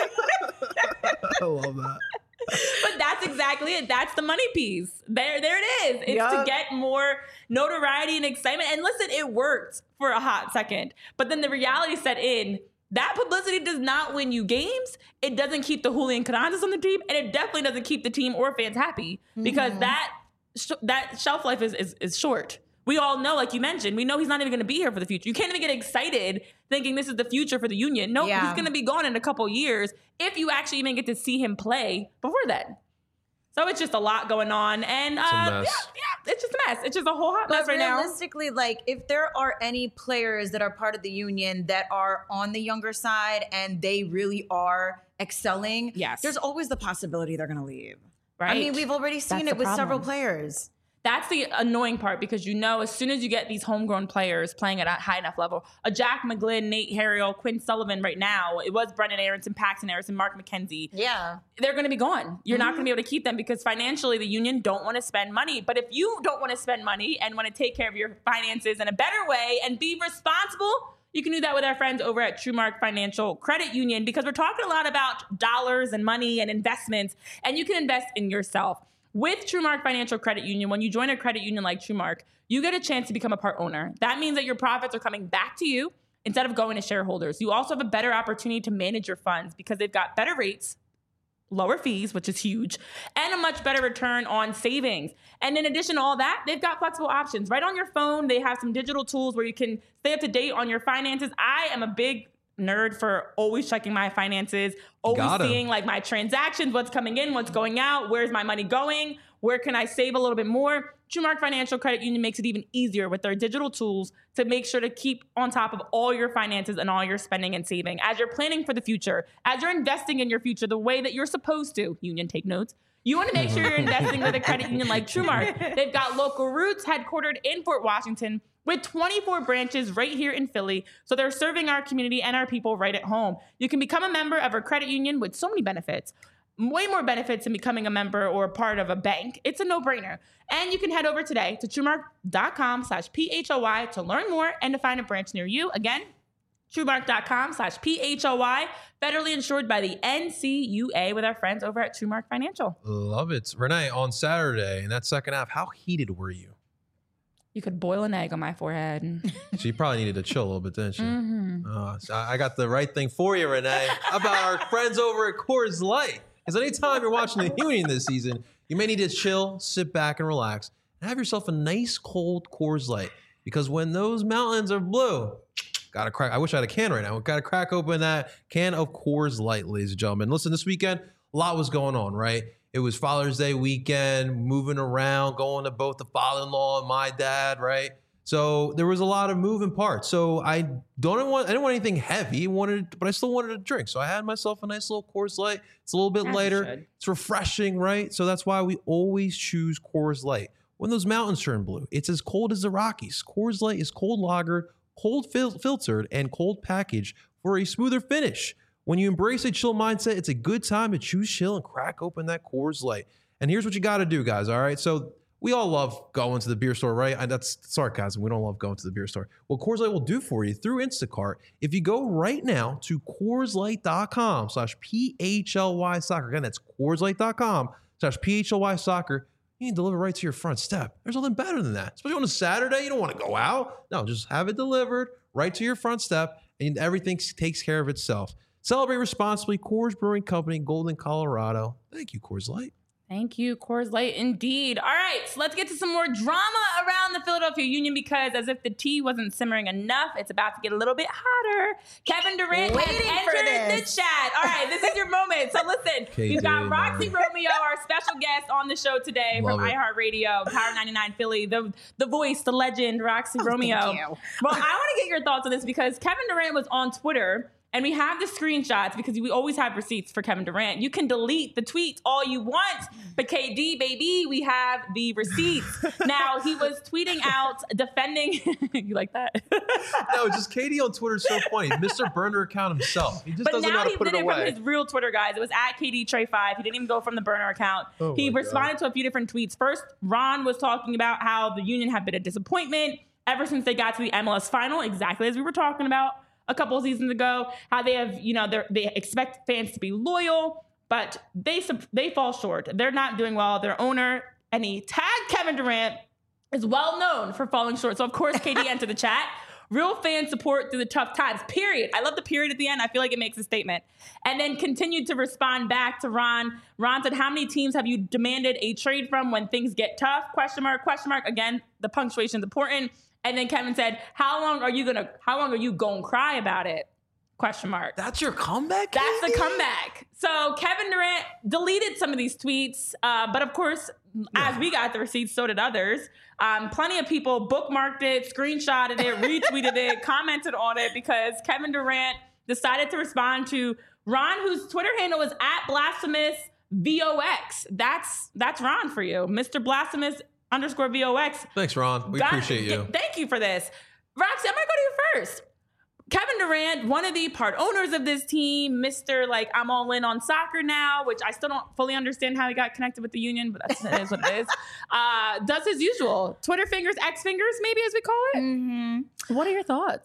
I love that. But that's exactly it. That's the money piece. There it is. It's to get more notoriety and excitement. And listen, it worked for a hot second. But then the reality set in. That publicity does not win you games. It doesn't keep the Julian Cananzas on the team. And it definitely doesn't keep the team or fans happy. Because that shelf life is short. We all know, like you mentioned, we know he's not even going to be here for the future. You can't even get excited thinking this is the future for the Union. No, he's going to be gone in a couple years if you actually even get to see him play before then. So it's just a lot going on. And it's a mess. It's just a mess. It's just a whole hot mess right now. Realistically, like, if there are any players that are part of the Union that are on the younger side and they really are excelling, there's always the possibility they're going to leave. Right. I mean, we've already seen it with several players. That's the annoying part because as soon as you get these homegrown players playing at a high enough level, a Jack McGlynn, Nate Harriel, Quinn Sullivan right now, it was Brendan Aronson, Paxton Aronson, Mark McKenzie. Yeah. They're going to be gone. You're not going to be able to keep them because financially the Union don't want to spend money. But if you don't want to spend money and want to take care of your finances in a better way and be responsible, you can do that with our friends over at TrueMark Financial Credit Union because we're talking a lot about dollars and money and investments, and you can invest in yourself. With TrueMark Financial Credit Union, when you join a credit union like TrueMark, you get a chance to become a part owner. That means that your profits are coming back to you instead of going to shareholders. You also have a better opportunity to manage your funds because they've got better rates, lower fees, which is huge, and a much better return on savings. And in addition to all that, they've got flexible options. Right on your phone, they have some digital tools where you can stay up to date on your finances. I am a big nerd for always checking my finances, always seeing like my transactions, what's coming in, what's going out, where's my money going, where can I save a little bit more. TrueMark Financial Credit Union makes it even easier with their digital tools to make sure to keep on top of all your finances and all your spending and saving. As you're planning for the future, as you're investing in your future the way that you're supposed to, Union, take notes. You want to make sure you're investing with a credit union like TrueMark. They've got local roots headquartered in Fort Washington with 24 branches right here in Philly. So they're serving our community and our people right at home. You can become a member of a credit union with so many benefits. Way more benefits than becoming a member or a part of a bank. It's a no-brainer. And you can head over today to TrueMark.com/PHOY to learn more and to find a branch near you. Again, TrueMark.com/PHOY, federally insured by the NCUA with our friends over at TrueMark Financial. Love it. Renee, on Saturday in that second half, how heated were you? You could boil an egg on my forehead. She probably needed to chill a little bit, didn't she? So I got the right thing for you, Renee. How about our friends over at Coors Light? Because anytime you're watching the Union this season, you may need to chill, sit back, and relax, and have yourself a nice cold Coors Light. Because when those mountains are blue, gotta crack. I wish I had a can right now. Gotta crack open that can of Coors Light, ladies and gentlemen. Listen, this weekend, a lot was going on, right? It was Father's Day weekend, moving around, going to both the father-in-law and my dad, right? So there was a lot of moving parts. So I didn't want anything heavy, but I still wanted a drink. So I had myself a nice little Coors Light. It's a little bit lighter. It's refreshing, right? So that's why we always choose Coors Light. When those mountains turn blue, it's as cold as the Rockies. Coors Light is cold lagered, cold filtered, and cold packaged for a smoother finish. When you embrace a chill mindset, it's a good time to choose chill and crack open that Coors Light. And here's what you got to do, guys, all right? So we all love going to the beer store, right? And that's sarcasm. We don't love going to the beer store. What Coors Light will do for you through Instacart, if you go right now to CoorsLight.com/PHLY soccer, again, that's CoorsLight.com/PHLY soccer, you can deliver right to your front step. There's nothing better than that. Especially on a Saturday, you don't want to go out. No, just have it delivered right to your front step, and everything takes care of itself. Celebrate responsibly. Coors Brewing Company, Golden, Colorado. Thank you, Coors Light. Thank you, Coors Light, indeed. All right, so let's get to some more drama around the Philadelphia Union because as if the tea wasn't simmering enough, it's about to get a little bit hotter. Kevin Durant has entered the chat. All right, this is your moment. So listen, we've got Roxy Romeo, our special guest on the show today from iHeartRadio, Power 99 Philly, the voice, the legend, Roxy Romeo. Thank you. Well, I want to get your thoughts on this because Kevin Durant was on Twitter and we have the screenshots because we always have receipts for Kevin Durant. You can delete the tweets all you want, but KD, baby, we have the receipts. Now, he was tweeting out defending. You like that? No, just KD on Twitter is so funny. Mr. Burner account himself. He just doesn't know how to put it away. But now he did it from his real Twitter, guys. It was at KD Trey 5. He didn't even go from the burner account. He responded to a few different tweets. First, Ron was talking about how the Union have been a disappointment ever since they got to the MLS final, exactly as we were talking about a couple of seasons ago, how they have, they expect fans to be loyal, but they fall short. They're not doing well. Their owner, and he tagged Kevin Durant, is well known for falling short. So, of course, KD entered the chat. Real fan support through the tough times, period. I love the period at the end. I feel like it makes a statement. And then continued to respond back to Ron. Ron said, how many teams have you demanded a trade from when things get tough? Question mark, question mark. Again, the punctuation is important. And then Kevin said, how long are you gonna cry about it? Question mark. That's your comeback? That's the comeback. So Kevin Durant deleted some of these tweets, but of course, as we got the receipts, so did others. Plenty of people bookmarked it, screenshotted it, retweeted it, commented on it because Kevin Durant decided to respond to Ron, whose Twitter handle is @BlasphemousVOX. That's Ron for you, Mr. Blasphemous_VOX. Thanks, Ron. We appreciate you. Thank you for this. Roxy, I'm going to go to you first. Kevin Durant, one of the part owners of this team, Mr. I'm all in on soccer now, which I still don't fully understand how he got connected with the Union, but that is what it is. Does his usual. Twitter fingers, X fingers, maybe as we call it. Mm-hmm. What are your thoughts?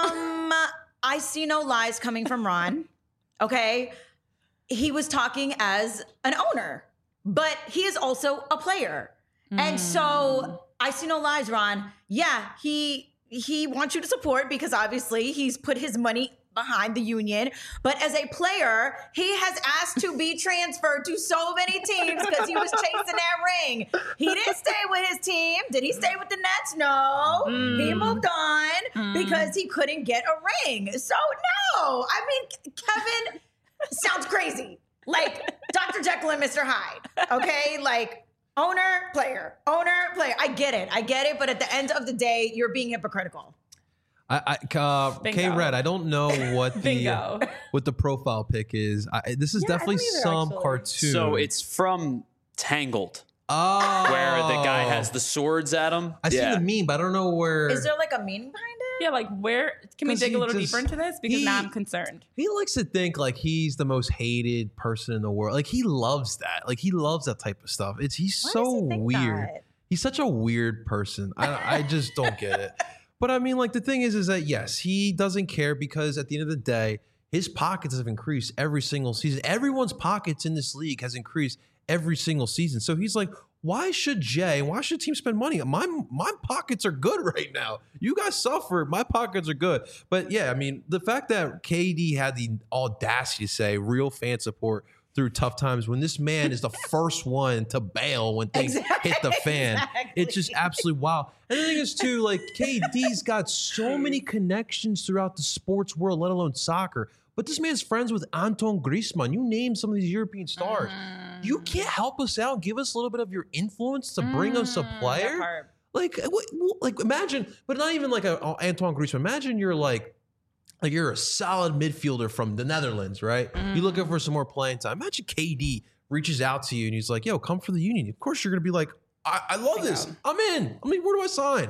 I see no lies coming from Ron. Okay. He was talking as an owner, but he is also a player. And so I see no lies, Ron. Yeah, he wants you to support because obviously he's put his money behind the Union. But as a player, he has asked to be transferred to so many teams because he was chasing that ring. He didn't stay with his team. Did he stay with the Nets? No. He moved on because he couldn't get a ring. So no. I mean, Kevin sounds crazy. Like Dr. Jekyll and Mr. Hyde. Okay? Owner, player. I get it. But at the end of the day, you're being hypocritical. K-Red, I don't know what the profile pic is. This is definitely some cartoon. So it's from Tangled. Oh. Where the guy has the swords at him. I see the meme, but I don't know where. Is there a meaning behind it? Yeah, where can we dig a little deeper into this? Because now I'm concerned. He likes to think he's the most hated person in the world. He loves that. He loves that type of stuff. He's so weird. He's such a weird person. I just don't get it. But I mean, the thing is that yes, he doesn't care because at the end of the day, his pockets have increased every single season. Everyone's pockets in this league has increased every single season. So he's like, why should teams spend money? My pockets are good right now. You guys suffer. My pockets are good. But yeah, I mean, the fact that KD had the audacity to say real fan support through tough times when this man is the first one to bail when things hit the fan. It's just absolutely wild. And the thing is too, KD's got so many connections throughout the sports world, let alone soccer. But this man's friends with Antoine Griezmann. You name some of these European stars. You can't help us out and give us a little bit of your influence to bring us a player? Imagine, but not even Antoine Griezmann. Imagine you're you're a solid midfielder from the Netherlands, right? You're looking for some more playing time. Imagine KD reaches out to you and he's like, yo, come for the Union. Of course you're going to be like, I love this. I'm in. I mean, where do I sign?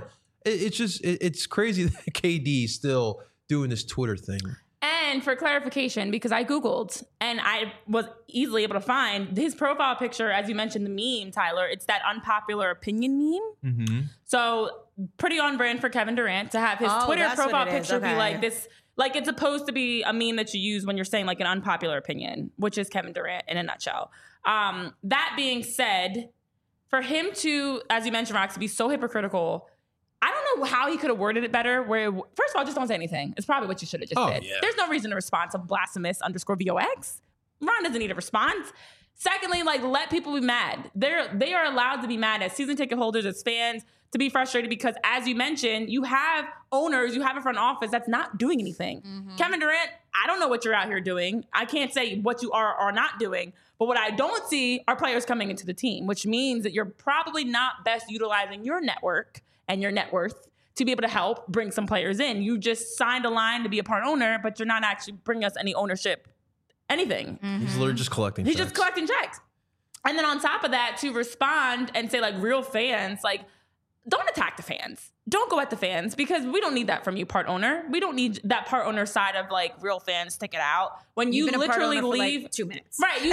It's crazy that KD's still doing this Twitter thing. And for clarification, because I Googled and I was easily able to find his profile picture, as you mentioned, the meme, Tyler, it's that unpopular opinion meme. Mm-hmm. So pretty on brand for Kevin Durant to have his Twitter profile picture be like this. It's supposed to be a meme that you use when you're saying an unpopular opinion, which is Kevin Durant in a nutshell. That being said, for him to, as you mentioned, Rox, to be so hypocritical, I don't know how he could have worded it better. Where, first of all, just don't say anything. It's probably what you should have just did. Yeah. There's no reason to respond to blasphemous_VOX. Ron doesn't need a response. Secondly, let people be mad. They are allowed to be mad as season ticket holders, as fans, to be frustrated because, as you mentioned, you have owners, you have a front office that's not doing anything. Mm-hmm. Kevin Durant, I don't know what you're out here doing. I can't say what you are not doing. But what I don't see are players coming into the team, which means that you're probably not best utilizing your network and your net worth to be able to help bring some players in. You just signed a line to be a part owner, but you're not actually bringing us any ownership, anything. He's literally just collecting He's checks. just collecting checks. And then on top of that, to respond and say like real fans, like don't attack the fans. Don't go at the fans because we don't need that from you, part owner. We don't need that part owner side of like real fans stick it out. When you literally leave for like 2 minutes. Right,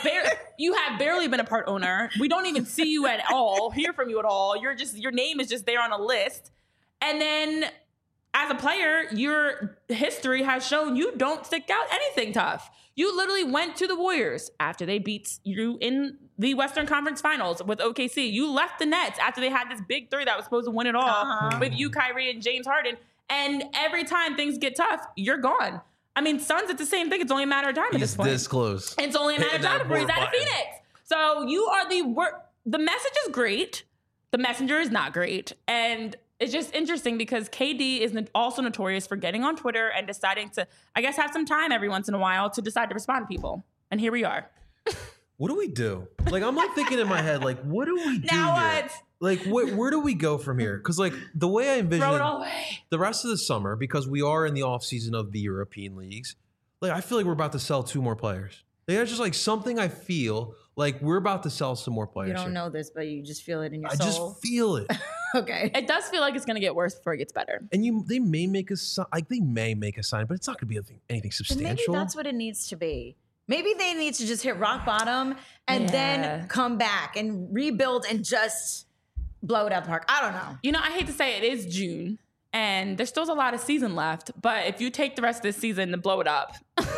you have barely been a part owner. We don't even see you at all, hear from you at all. Your name is just there on a list. And then as a player, your history has shown you don't stick out anything tough. You literally went to the Warriors after they beat you in the Western Conference Finals with OKC. You left the Nets after they had this big three that was supposed to win it all with you, Kyrie, and James Harden. And every time things get tough, you're gone. I mean, Suns, it's the same thing. It's only a matter of time at this point. This close. It's only a matter of time before he's out of Phoenix. So you are the message is great. The messenger is not great. And it's just interesting because KD is also notorious for getting on Twitter and deciding to, I guess, have some time every once in a while to decide to respond to people. And here we are. What do we do? Like, I'm like thinking in my head, like, what do we do Now here? what? Like, where do we go from here? Because, like, the way I envision Throw it all away. the rest of the summer, because we are in the off season of the European leagues, like, I feel like we're about to sell 2 more players. Like, that's just like something I feel like we're about to sell some more players. You don't here. know this, but you just feel it in your I soul. just feel it. Okay. It does feel like it's going to get worse before it gets better. And they may make a sign, like they may make a sign, but it's not going to be anything But substantial. maybe that's what it needs to be. Maybe they need to just hit rock bottom and then come back and rebuild and just blow it out the park. I don't know. You know, I hate to say it is June and there's still a lot of season left. But if you take the rest of this season to blow it up,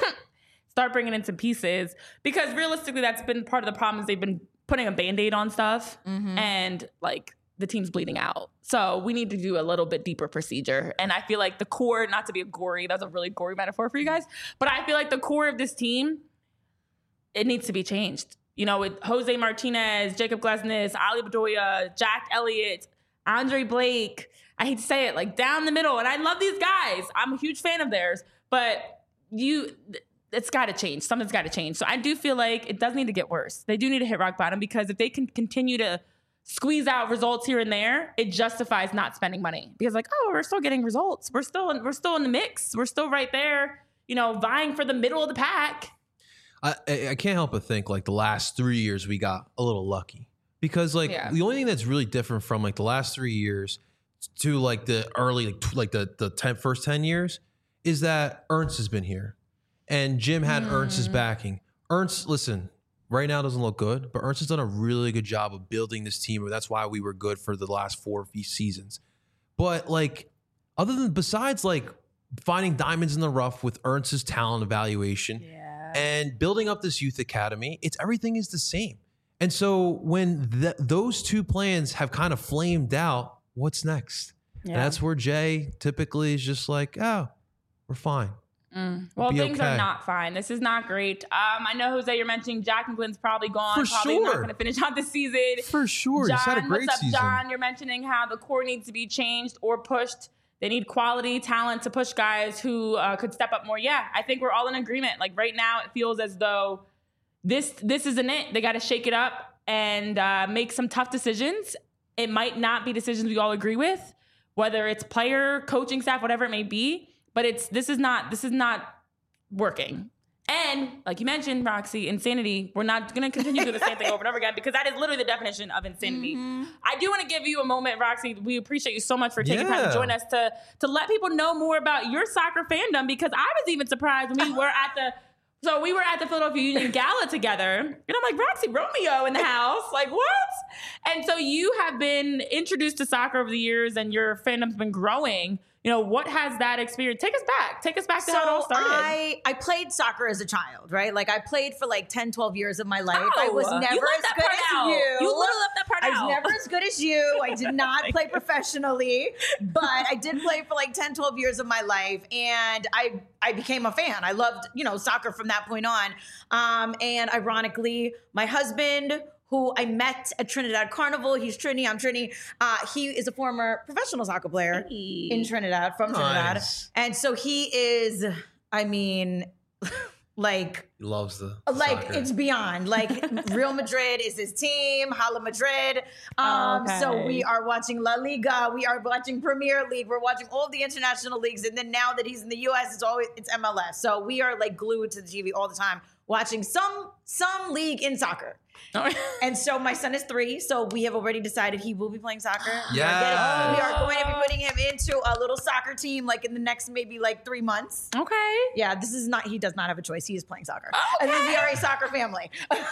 start bringing in some pieces, because realistically, that's been part of the problem is they've been putting a Band-Aid on stuff and like the team's bleeding out. So we need to do a little bit deeper procedure. And I feel like the core, not to be that's a really gory metaphor for you guys, but I feel like the core of this team, it needs to be changed. You know, with Jose Martinez, Jacob Glesnes, Ali Bedoya, Jack Elliott, Andre Blake, I hate to say it, like down the middle. And I love these guys. I'm a huge fan of theirs, but it's got to change. Something's got to change. So I do feel like it does need to get worse. They do need to hit rock bottom, because if they can continue to squeeze out results here and there, it justifies not spending money. Because like, oh, we're still getting results. We're still in the mix. We're still right there, you know, vying for the middle of the pack. I can't help but think like the last 3 years we got a little lucky, because like the only thing that's really different from like the last 3 years to like the early like the first 10 years is that Ernst has been here and Jim had Ernst's backing. Ernst, listen, right now doesn't look good, but Ernst has done a really good job of building this team. And that's why we were good for the last 4 seasons. But like, besides like finding diamonds in the rough with Ernst's talent evaluation and building up this youth academy, everything is the same. And so when those 2 plans have kind of flamed out, what's next? And that's where Jay typically is just like, oh, we're fine. Well, things are not fine. This is not great. I know, Jose, you're mentioning Jack McGlynn's probably gone. Probably not going to finish out the season. For sure. John, He's had a great what's up, season. John? You're mentioning how the core needs to be changed or pushed. They need quality talent to push guys who could step up more. Yeah, I think we're all in agreement. Like right now, it feels as though this isn't it. They got to shake it up and make some tough decisions. It might not be decisions we all agree with, whether it's player, coaching staff, whatever it may be. But this is not working. And like you mentioned, Roxy, insanity. We're not going to continue to do the same thing over and over again, because that is literally the definition of insanity. I do want to give you a moment, Roxy. We appreciate you so much for taking time to join us to let people know more about your soccer fandom, because I was even surprised when we were at the Philadelphia Union Gala together, and I'm like, Roxy Romeo in the house, like what? And so you have been introduced to soccer over the years, and your fandom's been growing. You know, what has that experience? Take us back to how it all started. I played soccer as a child, right? Like I played for like 10, 12 years of my life. I was never you as good as you. You literally left that part out. I was never as good as you. I did not play professionally, but I did play for like 10, 12 years of my life. And I became a fan. I loved, soccer from that point on. And ironically, my husband, who I met at Trinidad Carnival. He's Trini, I'm Trini. He is a former professional soccer player in Trinidad, from Trinidad. And so he is, Like, He loves the like soccer. it's beyond. Like Real Madrid is his team, Hala Madrid. Okay. So we are watching La Liga, we are watching Premier League, we're watching all the international leagues, and then now that he's in the US, it's MLS. So we are like glued to the TV all the time, watching some league in soccer. And so my son is 3, so we have already decided he will be playing soccer. Yes. We are going to be putting him into a little soccer team like in the next maybe like 3 months. Okay. Yeah, he does not have a choice. He is playing soccer. And then we are a soccer family.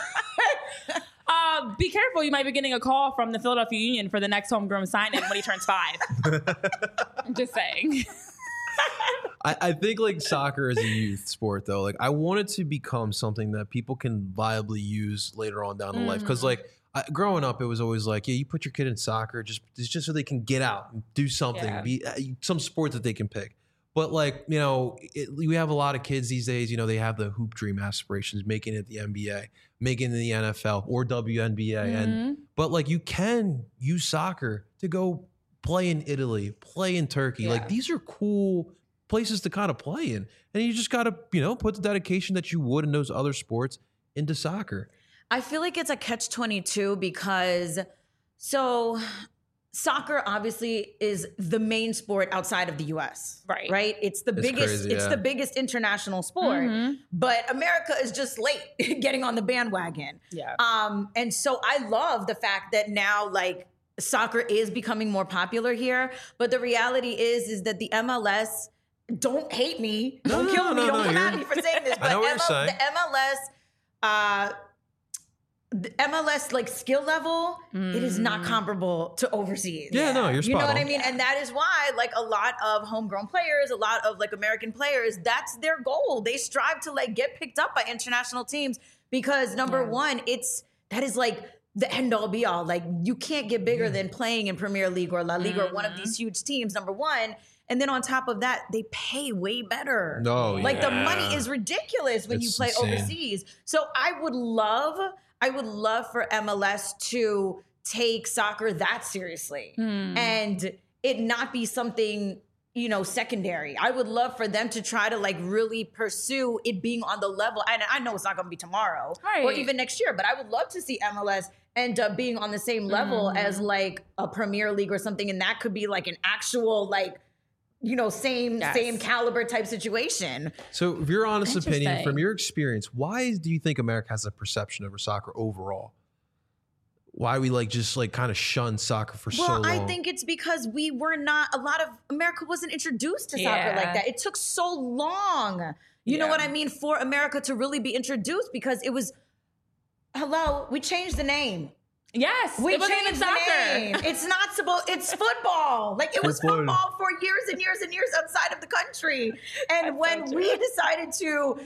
Be careful. You might be getting a call from the Philadelphia Union for the next homegrown signing when he turns 5. I'm just saying. I think like soccer is a youth sport though. Like I want it to become something that people can viably use later on down in life. Because like growing up, it was always like, yeah, you put your kid in soccer just so they can get out and do something, be some sport that they can pick. But like, you know, we have a lot of kids these days, you know, they have the hoop dream aspirations, making it the NBA, making it the NFL or WNBA. But like you can use soccer to go play in Italy, play in Turkey. Like these are cool places to kind of play in. And you just got to, you know, put the dedication that you would in those other sports into soccer. I feel like it's a catch-22 because soccer obviously is the main sport outside of the US. Right? It's the biggest crazy, the biggest international sport. But America is just late getting on the bandwagon. Yeah. And so I love the fact that now like soccer is becoming more popular here, but the reality is that the MLS, don't hate me, don't kill me, don't come at me for saying this, but the MLS like skill level, it is not comparable to overseas. Yeah, no, you're spot You know what on. I mean? And that is why like a lot of homegrown players, a lot of like American players, that's their goal. They strive to like get picked up by international teams because number one, that is like the end all be all. Like you can't get bigger than playing in Premier League or La Liga or one of these huge teams, number one. And then on top of that, they pay way better. No, like the money is ridiculous when you play overseas. So I would love for MLS to take soccer that seriously and it not be something, you know, secondary. I would love for them to try to like really pursue it being on the level. And I know it's not going to be tomorrow or even next year, but I would love to see MLS end up being on the same level as like a Premier League or something. And that could be like an actual like, you know, same caliber type situation. So if your honest opinion, from your experience, why do you think America has a perception over soccer overall? Why we like just like kind of shun soccer for so long? Well, I think it's because a lot of America wasn't introduced to soccer like that. It took so long, you know what I mean, for America to really be introduced because it was, we changed the name. Yes, we it wasn't changed even soccer. The name. It's not supposed. It's football. Like it was football for years and years and years outside of the country. And when we decided to,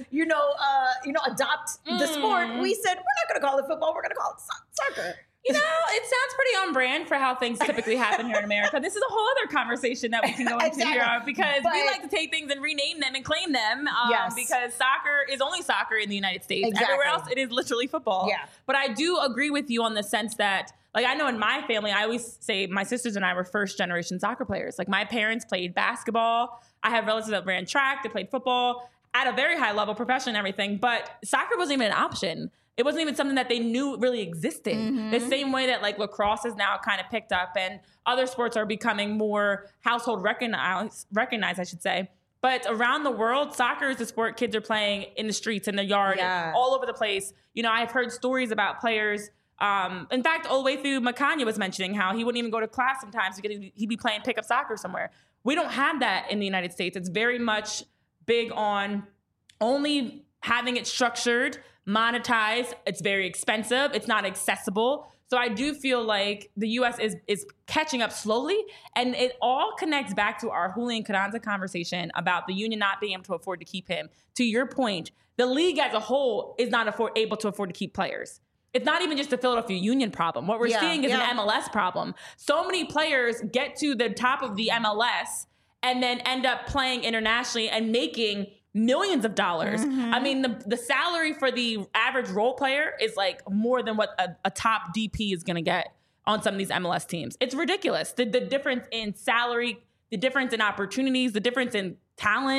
adopt the sport, we said we're not going to call it football. We're going to call it soccer. You know, it sounds pretty on brand for how things typically happen here in America. This is a whole other conversation that we can go into here because we like to take things and rename them and claim them because soccer is only soccer in the United States. Exactly. Everywhere else, it is literally football. Yeah. But I do agree with you on the sense that, like, I know in my family, I always say my sisters and I were first generation soccer players. Like, my parents played basketball. I have relatives that ran track, they played football at a very high level, profession and everything. But soccer wasn't even an option. It wasn't even something that they knew really existed. The same way that like lacrosse is now kind of picked up and other sports are becoming more household recognized, I should say. But around the world, soccer is the sport kids are playing in the streets, in the yard, all over the place. You know, I've heard stories about players. In fact, all the way through Makanya was mentioning how he wouldn't even go to class sometimes because he'd be playing pickup soccer somewhere. We don't have that in the United States. It's very much big on only having it structured, monetized. It's very expensive. It's not accessible. So I do feel like the U.S. is catching up slowly, and it all connects back to our Julian Carranza conversation about the union not being able to afford to keep him. To your point, the league as a whole is not able to afford to keep players. It's not even just a Philadelphia Union problem. What we're seeing is an MLS problem. So many players get to the top of the MLS and then end up playing internationally and making millions of dollars. I mean, the salary for the average role player is like more than what a top DP is going to get on some of these MLS teams. It's ridiculous. The difference in salary, the difference in opportunities, the difference in talent.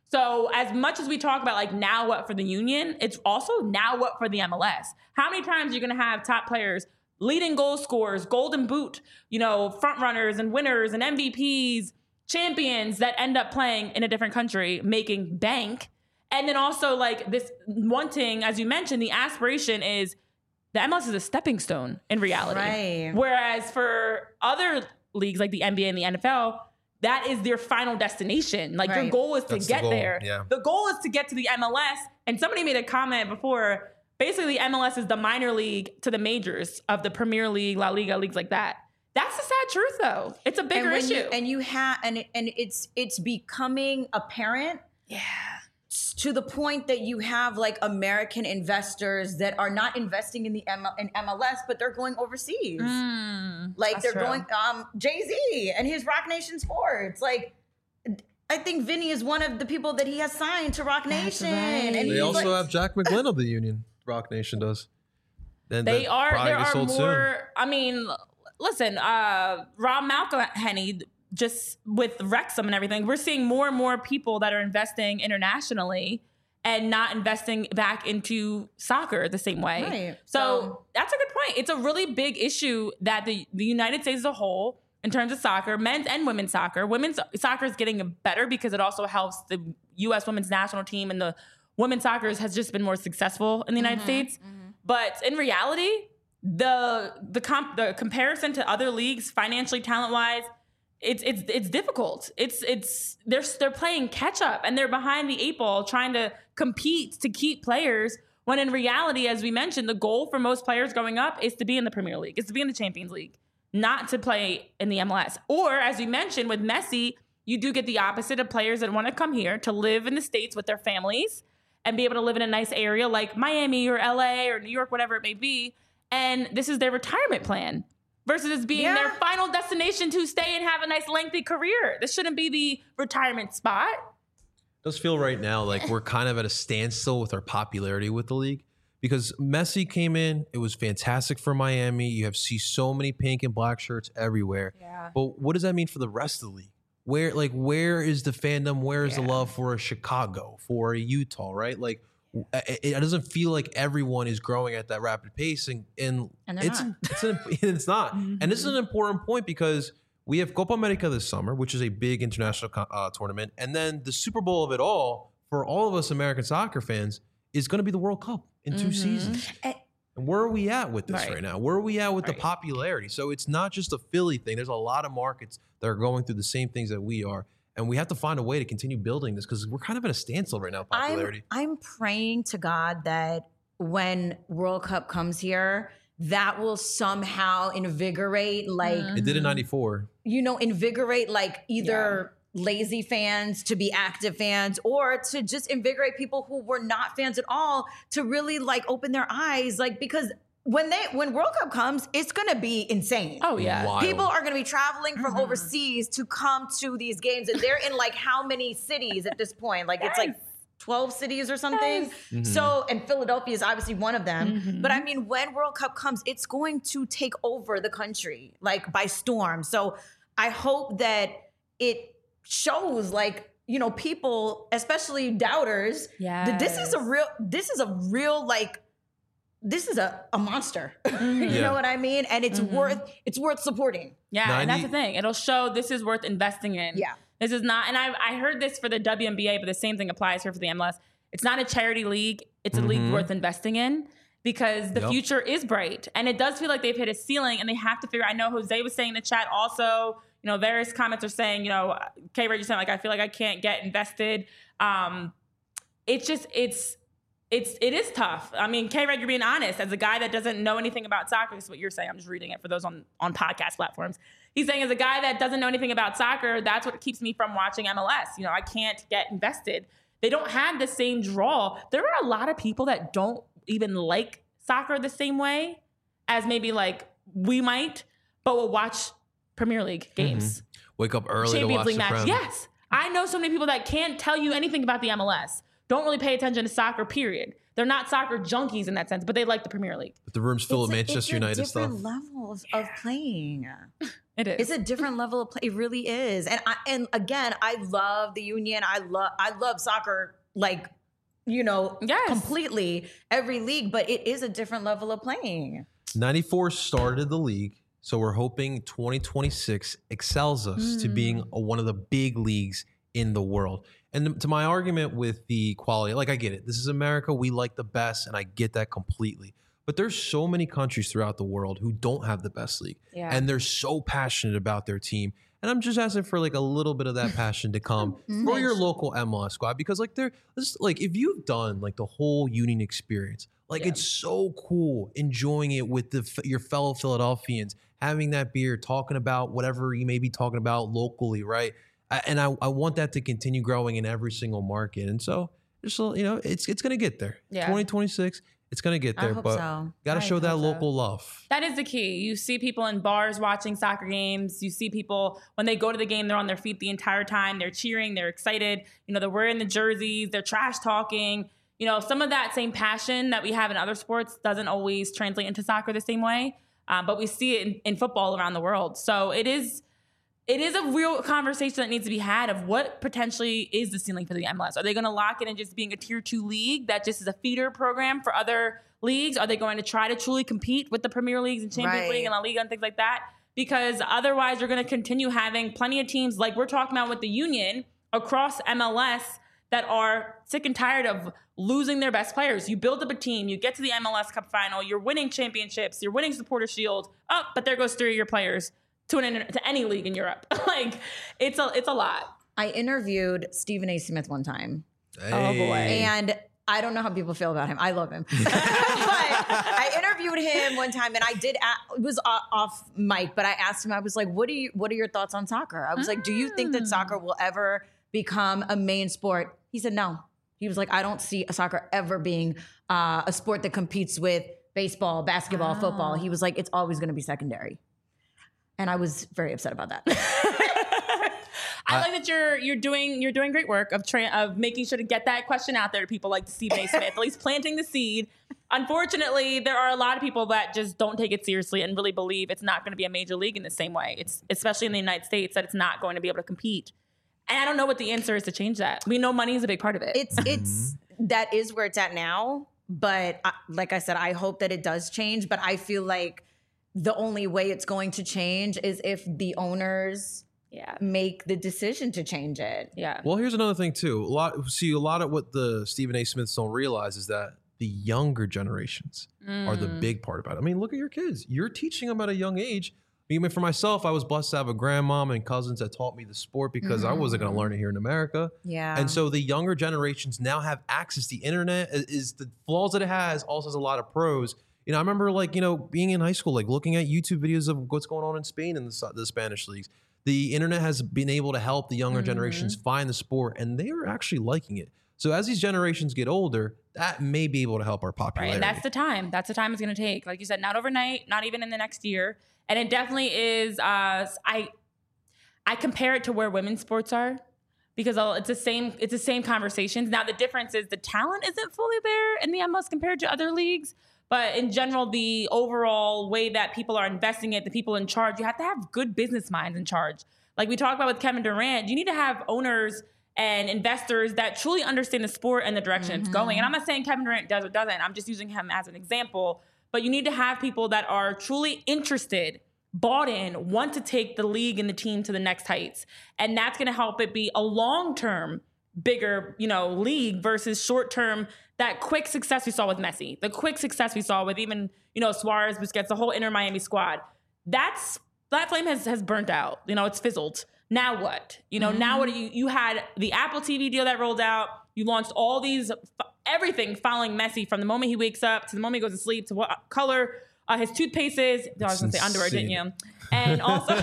So as much as we talk about like now what for the union, it's also now what for the MLS. How many times are you going to have top players, leading goal scorers, golden boot, front runners and winners and MVPs, champions that end up playing in a different country, making bank? And then also like this wanting, as you mentioned, the aspiration is the MLS is a stepping stone in reality. Right. Whereas for other leagues like the NBA and the NFL, that is their final destination. Like your goal is to get there. Yeah. The goal is to get to the MLS. And somebody made a comment before, basically MLS is the minor league to the majors of the Premier League, La Liga, leagues like that. That's the sad truth though. It's a bigger issue. It's becoming apparent. Yeah. To the point that you have like American investors that are not investing in in MLS, but they're going overseas. Like they're going, Jay-Z and his Rock Nation Sports. Like, I think Vinny is one of the people that he has signed to Rock Nation. Right. And They also have Jack McGlynn of the union. Rock Nation does. And There are more. Soon. I mean, listen, Rob McElhenney, just with Wrexham and everything, we're seeing more and more people that are investing internationally and not investing back into soccer the same way. Right. So that's a good point. It's a really big issue that the United States as a whole, in terms of soccer, men's and women's soccer. Women's soccer is getting better because it also helps the U.S. women's national team, and the women's soccer has just been more successful in the United States. But in reality, the comparison to other leagues, financially, talent-wise, it's difficult. They're playing catch up and they're behind the 8 ball trying to compete to keep players, when in reality, as we mentioned, the goal for most players growing up is to be in the Premier League, is to be in the Champions League, not to play in the MLS. Or as we mentioned with Messi, you do get the opposite of players that want to come here to live in the States with their families and be able to live in a nice area like Miami or LA or New York, whatever it may be. And this is their retirement plan. Versus it being their final destination to stay and have a nice lengthy career. This shouldn't be the retirement spot. It does feel right now like we're kind of at a standstill with our popularity with the league, because Messi came in, it was fantastic for Miami. You see so many pink and black shirts everywhere. Yeah. But what does that mean for the rest of the league? Where is the fandom? Where is the love for a Chicago, for a Utah, right? Like, it doesn't feel like everyone is growing at that rapid pace, and it's not. And this is an important point, because we have Copa America this summer, which is a big international tournament, and then the Super Bowl of it all for all of us American soccer fans is going to be the World Cup in 2 seasons. And where are we at with this right now? Where are we at with the popularity? So it's not just a Philly thing. There's a lot of markets that are going through the same things that we are. And we have to find a way to continue building this, because we're kind of at a standstill right now, popularity. I'm praying to God that when World Cup comes here, that will somehow invigorate, like... It did in 94. Invigorate, like, either lazy fans to be active fans, or to just invigorate people who were not fans at all to really, like, open their eyes. Like, because... When World Cup comes, it's going to be insane. Oh, yeah. Wild. People are going to be traveling from overseas to come to these games. And they're in like how many cities at this point? Like it's like 12 cities or something. So, and Philadelphia is obviously one of them. But I mean, when World Cup comes, it's going to take over the country like by storm. So I hope that it shows like, people, especially doubters, that this is a real like, this is a monster. You know what I mean? And it's worth supporting. Yeah, and that's the thing. It'll show this is worth investing in. Yeah. This is not, and I heard this for the WNBA, but the same thing applies here for the MLS. It's not a charity league. It's a league worth investing in, because the future is bright. And it does feel like they've hit a ceiling, and they have to figure, I know Jose was saying in the chat also, various comments are saying, K-Ray just saying, like, I feel like I can't get invested. It is tough. I mean, K-Red, you're being honest. As a guy that doesn't know anything about soccer, this is what you're saying. I'm just reading it for those on podcast platforms. He's saying, as a guy that doesn't know anything about soccer, that's what keeps me from watching MLS. I can't get invested. They don't have the same draw. There are a lot of people that don't even like soccer the same way as maybe like we might, but will watch Premier League games. Wake up early Champions to watch League the match. Prem. Yes. I know so many people that can't tell you anything about the MLS. don't really pay attention to soccer, period. They're not soccer junkies in that sense, but they like the Premier League. But the room's full of Manchester United stuff. It's different levels of playing. It is. It's a different level of play. It really is. And again, I love the union. I love soccer, like, completely every league, but it is a different level of playing. 94 started the league. So we're hoping 2026 excels us to being one of the big leagues in the world. And to my argument with the quality, like, I get it. This is America. We like the best, and I get that completely. But there's so many countries throughout the world who don't have the best league. Yeah. And they're so passionate about their team. And I'm just asking for like a little bit of that passion to come for your local MLS squad. Because if you've done like the whole Union experience, it's so cool enjoying it with your fellow Philadelphians, having that beer, talking about whatever you may be talking about locally, right? And I want that to continue growing in every single market. And so, it's going to get there. Yeah. 2026, it's going to get there. But got to show that local love. That is the key. You see people in bars watching soccer games. You see people, when they go to the game, they're on their feet the entire time. They're cheering. They're excited. They're wearing the jerseys. They're trash talking. Some of that same passion that we have in other sports doesn't always translate into soccer the same way. But we see it in football around the world. So it is a real conversation that needs to be had of what potentially is the ceiling for the MLS. Are they going to lock it in just being a tier 2 league that just is a feeder program for other leagues? Are they going to try to truly compete with the Premier Leagues and Champions League and La Liga and things like that? Because otherwise you're going to continue having plenty of teams like we're talking about with the Union across MLS that are sick and tired of losing their best players. You build up a team, you get to the MLS Cup final, you're winning championships, you're winning Supporter Shield. Oh, but there goes 3 of your players to any league in Europe. It's a lot. I interviewed Stephen A. Smith one time. Hey. Oh boy. And I don't know how people feel about him. I love him. But I interviewed him one time, and it was off mic, but I asked him, I was like, what are your thoughts on soccer? I was like, do you think that soccer will ever become a main sport? He said no. He was like, I don't see soccer ever being a sport that competes with baseball, basketball, football. He was like, it's always going to be secondary. And I was very upset about that. I like that you're doing great work of making sure to get that question out there to people like Stephen A. Smith, at least planting the seed. Unfortunately, there are a lot of people that just don't take it seriously and really believe it's not going to be a major league in the same way. It's especially in the United States that it's not going to be able to compete. And I don't know what the answer is to change that. We know money is a big part of it. It's that is where it's at now. But like I said, I hope that it does change. But I feel like the only way it's going to change is if the owners make the decision to change it. Yeah. Well, here's another thing too. A lot of what the Stephen A. Smiths don't realize is that the younger generations are the big part about it. I mean, look at your kids. You're teaching them at a young age. I mean, for myself, I was blessed to have a grandmom and cousins that taught me the sport because I wasn't going to learn it here in America. Yeah. And so the younger generations now have access. The internet is the flaws that it has also has a lot of pros. I remember being in high school, looking at YouTube videos of what's going on in Spain and the Spanish leagues. The internet has been able to help the younger generations find the sport, and they are actually liking it. So as these generations get older, that may be able to help our popularity. Right, and that's the time. That's the time it's going to take. Like you said, not overnight, not even in the next year. And it definitely is. I compare it to where women's sports are because it's the same conversations. Now the difference is the talent isn't fully there in the MLS compared to other leagues. But in general, the overall way that people are investing it, the people in charge, you have to have good business minds in charge. Like we talked about with Kevin Durant, you need to have owners and investors that truly understand the sport and the direction it's going. And I'm not saying Kevin Durant does or doesn't. I'm just using him as an example. But you need to have people that are truly interested, bought in, want to take the league and the team to the next heights. And that's going to help it be a long-term, bigger, league versus short-term, that quick success we saw with Messi, the quick success we saw with even, Suarez, Busquets, the whole Inter Miami squad. That flame has burnt out. It's fizzled. Now what? Now what you had the Apple TV deal that rolled out. You launched all these, everything following Messi from the moment he wakes up to the moment he goes to sleep to what color his toothpaste is. I was going to say underwear, didn't you? And also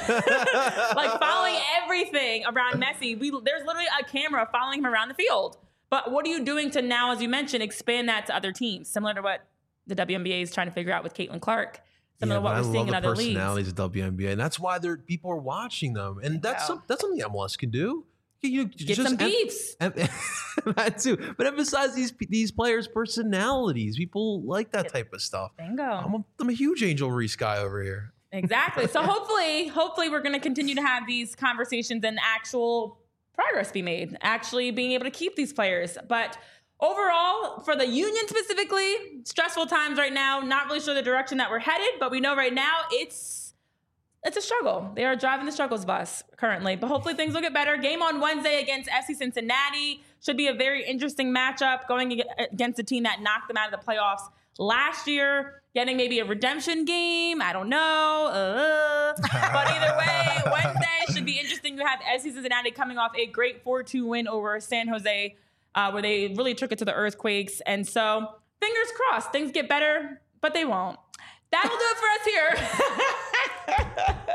following everything around Messi. There's literally a camera following him around the field. But what are you doing to now, as you mentioned, expand that to other teams? Similar to what the WNBA is trying to figure out with Caitlin Clark. Similar to what we're seeing in other leagues. I love the personalities of WNBA, and that's why people are watching them. And that's something the MLS can do. Get some beefs. That too. But emphasize these players' personalities. People like that type of stuff. Bingo. I'm a huge Angel Reese guy over here. Exactly. So hopefully we're going to continue to have these conversations and actual progress be made, actually being able to keep these players. But overall, for the Union specifically, stressful times right now. Not really sure the direction that we're headed, but we know right now it's a struggle. They are driving the struggles bus currently, but hopefully things will get better. Game on Wednesday against FC Cincinnati should be a very interesting matchup, going against a team that knocked them out of the playoffs last year, getting maybe a redemption game. I don't know. But either way, Wednesday should be interesting. You have FC Cincinnati coming off a great 4-2 win over San Jose, where they really took it to the Earthquakes. And so fingers crossed, things get better, but they won't. That'll do it for us here.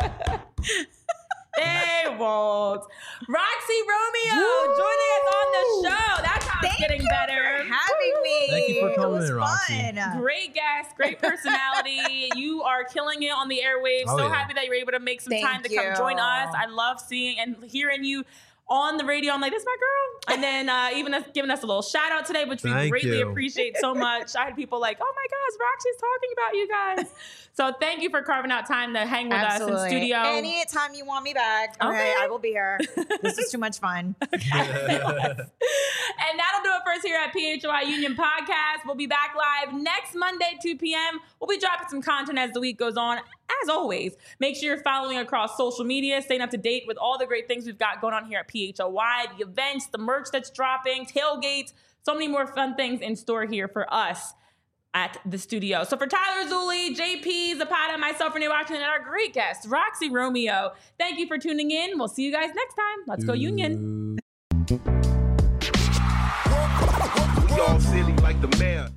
They won't. Roxy Romeo joining us on the show. That's how it's getting better. For having me. Thank you for coming in, It was Roxy. fun. Great guest, great personality. You are killing it on the airwaves. Oh, so yeah. happy that you're able to make some Thank time to come you. join us. I love seeing and hearing you on the radio. I'm like, this is my girl. And then even giving us a little shout out today, which we Thank greatly you. appreciate so much. I had people like, oh my gosh, Roxy's talking about you guys. So thank you for carving out time to hang with us in studio. Anytime you want me back, Okay. I will be here. This is too much fun. And that'll do it for us here at PHY Union Podcast. We'll be back live next Monday, 2 p.m. We'll be dropping some content as the week goes on. As always, make sure you're following across social media, staying up to date with all the great things we've got going on here at PHY, the events, the merch that's dropping, tailgates, so many more fun things in store here for us at the studio. So for Tyler Zulli, JP, Zapata, myself, Renee Washington, and our great guest, Roxy Romeo, thank you for tuning in. We'll see you guys next time. Let's go Union.